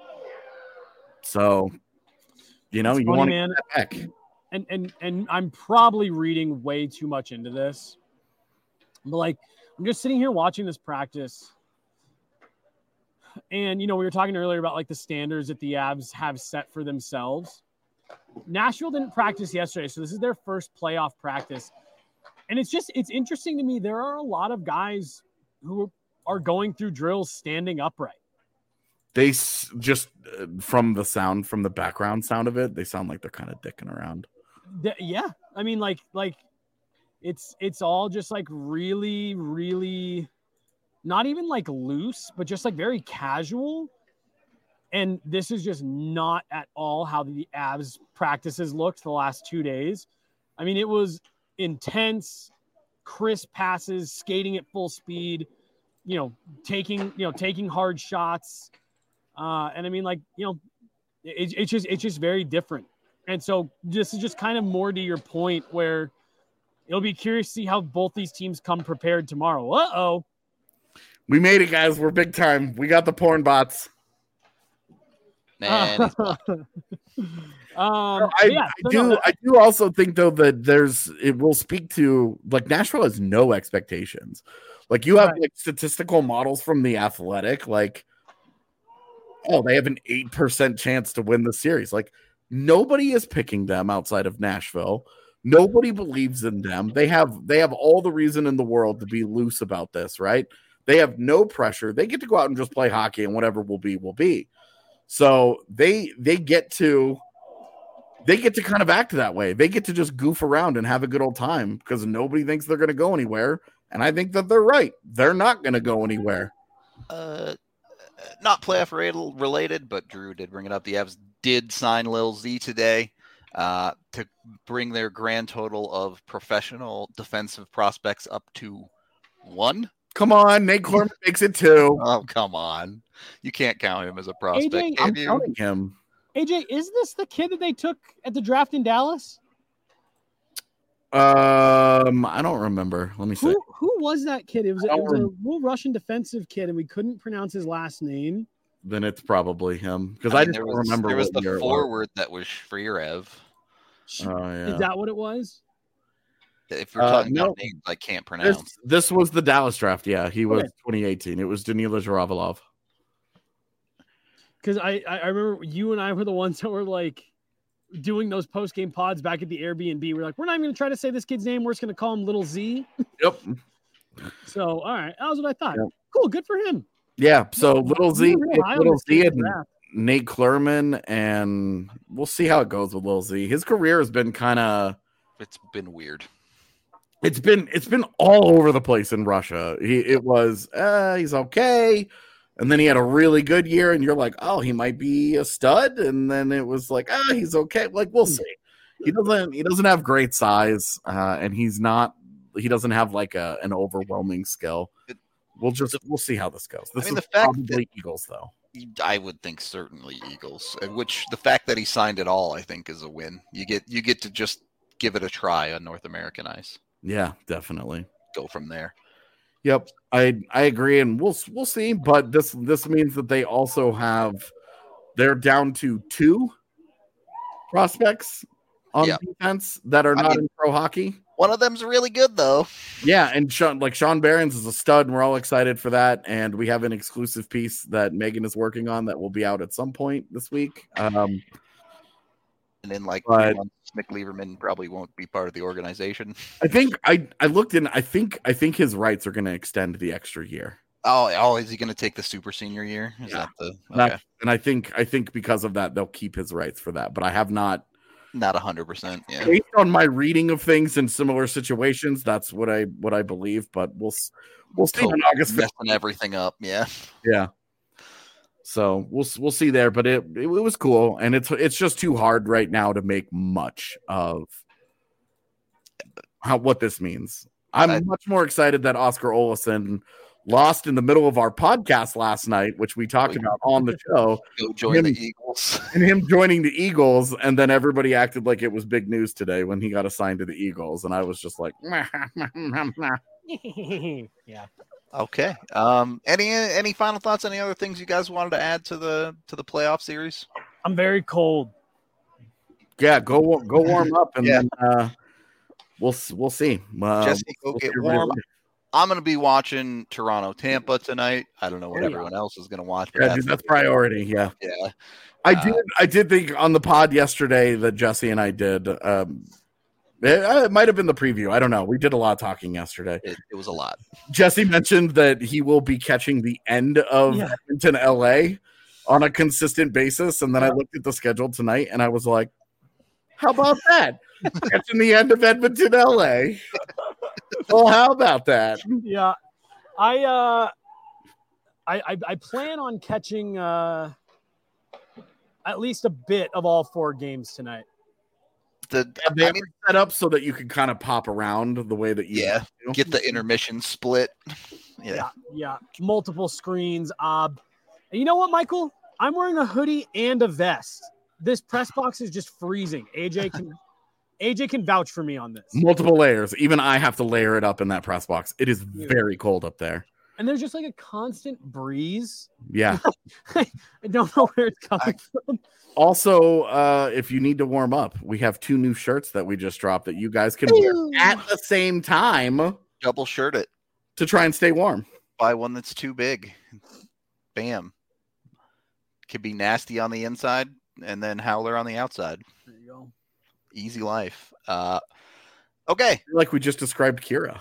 So, you know, it's you funny, want man. to back. And and and I'm probably reading way too much into this. But like, I'm just sitting here watching this practice, and you know, we were talking earlier about like the standards that the Avs have set for themselves. Nashville didn't practice yesterday, so this is their first playoff practice. And it's just, it's interesting to me. There are a lot of guys who are going through drills standing upright. They s- just, uh, from the sound, from the background sound of it, they sound like they're kind of dicking around. The, yeah. I mean, like, like it's, it's all just like really, really not even like loose, but just like very casual. And this is just not at all how the Avs practices looked the last two days. I mean, it was intense, crisp passes, skating at full speed, you know, taking, you know, taking hard shots. Uh, and I mean, like, you know, it, it's just, it's just very different. And so this is just kind of more to your point where it'll be curious to see how both these teams come prepared tomorrow. Uh-oh. We made it, guys. We're big time. We got the porn bots. Man, um, I, yeah, I so do. no, I do also think though that there's it will speak to like Nashville has no expectations. Like you have Right. like statistical models from the Athletic, like oh they have an eight percent chance to win the series. Like nobody is picking them outside of Nashville. Nobody believes in them. They have they have all the reason in the world to be loose about this, right? They have no pressure. They get to go out and just play hockey, and whatever will be will be. So they they get to they get to kind of act that way. They get to just goof around and have a good old time because nobody thinks they're going to go anywhere. And I think that they're right. They're not going to go anywhere. uh, not playoff related, but Drew did bring it up. The Avs did sign Lil Z today uh, to bring their grand total of professional defensive prospects up to one. Come on, Nate Corman makes it too. Oh, come on. You can't count him as a prospect. A J, can I'm you? counting him. A J, is this the kid that they took at the draft in Dallas? Um, I don't remember. Let me see. Who who was that kid? It was, I it don't was a rem- little Russian defensive kid, and we couldn't pronounce his last name. Then it's probably him because I I, mean, just there don't was, remember. there was what year the it forward that was Shreerev. Oh yeah. Is that what it was? If you're Uh, talking no. about names I can't pronounce. This, this was the Dallas draft. Yeah, he was Okay. twenty eighteen. It was Danila Zharavalov. Because I, I I remember you and I were the ones that were like doing those post game pods back at the Airbnb. We're like, we're not even going to try to say this kid's name. We're just going to call him Little Z. Yep. So all right, that was what I thought. Yep. Cool, good for him. Yeah. So Little Z, You were real high on Little this Z, kid's and draft. Nate Klerman, and we'll see how it goes with Lil Z. His career has been kind of It's been weird. it's been it's been all over the place in Russia. He it was uh, he's okay, and then he had a really good year, and you're like, oh, he might be a stud, and then it was like, ah, he's okay. Like we'll see. He doesn't he doesn't have great size, uh, and he's not he doesn't have like a an overwhelming skill. We'll just we'll see how this goes. This I mean, is the fact probably Eagles though. I would think certainly Eagles, uh, which the fact that he signed it all, I think, is a win. You get you get to just give it a try on North American ice. Yeah, definitely. Go from there. Yep, I I agree, and we'll we'll see. But this this means that they also have they're down to two prospects on Yeah. defense that are I not mean- in pro hockey. One of them's really good, though. Yeah, and Sean, like Sean Barons is a stud, and we're all excited for that. And we have an exclusive piece that Megan is working on that will be out at some point this week. Um, And then, like, But- three months, Mick Lieberman probably won't be part of the organization. I think I I looked in. I think I think his rights are going to extend the extra year. Oh, oh, is he going to take the super senior year? Is Yeah. that the That- okay? And I think I think because of that, they'll keep his rights for that. But I have not. Not a hundred percent. Yeah. Based on my reading of things in similar situations, that's what I what I believe. But we'll s- we'll see on August fifth. Messing everything up. Yeah. Yeah. So we'll s- we'll see there, but it, it it was cool, and it's it's just too hard right now to make much of how what this means. I'm I- much more excited that Oscar Olesen lost in the middle of our podcast last night, which we talked We- about on the show, Go join Him- the Eagles. and him joining the Eagles, and then everybody acted like it was big news today when he got assigned to the Eagles, and I was just like, yeah. Okay. Um. Any any final thoughts? Any other things you guys wanted to add to the to the playoff series? I'm very cold. yeah, go wa- go warm up, and Yeah. then uh, we'll s- we'll see. Uh, Jesse, go we'll get see what it warm. is. I'm going to be watching Toronto Tampa tonight. I don't know what Oh, yeah. everyone else is going to watch. But Yeah, that's, dude, that's priority. Yeah, yeah. I Uh, did. I did think on the pod yesterday that Jesse and I did. Um, it, it might have been the preview. I don't know. We did a lot of talking yesterday. It, it was a lot. Jesse mentioned that he will be catching the end of Yeah. Edmonton, L A, on a consistent basis, and then I looked at the schedule tonight, and I was like, "How about that? Catching the end of Edmonton, L A." Well, how about that? Yeah. I uh I, I I plan on catching uh, at least a bit of all four games tonight. The Have they I ever mean, set up so that you can kind of pop around the way that you yeah, do? get the intermission split. Yeah. Yeah, yeah. Multiple screens. Uh, and you know what, Michael? I'm wearing a hoodie and a vest. This press box is just freezing. A J can A J can vouch for me on this. Multiple layers. Even I have to layer it up in that press box. It is Yeah. very cold up there. And there's just like a constant breeze. Yeah. I don't know where it's coming I- from. Also, uh, if you need to warm up, we have two new shirts that we just dropped that you guys can wear at the same time Double shirt it. to try and stay warm. Buy one that's too big. Bam. Could be nasty on the inside and then howler on the outside. There you go. Easy life. Uh, okay. Like we just described Kira.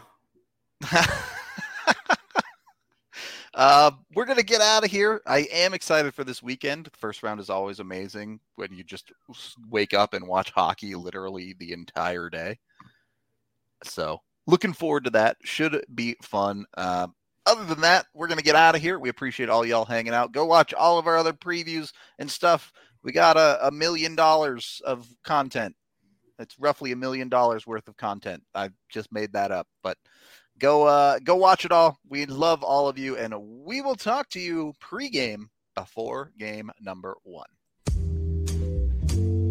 uh, we're going to get out of here. I am excited for this weekend. The first round is always amazing when you just wake up and watch hockey literally the entire day. So looking forward to that. Should be fun. Uh, other than that, we're going to get out of here. We appreciate all y'all hanging out. Go watch all of our other previews and stuff. We got a, a million dollars of content. It's roughly a million dollars worth of content. I just made that up, but go uh, go watch it all. We love all of you, and we will talk to you pregame before game number one.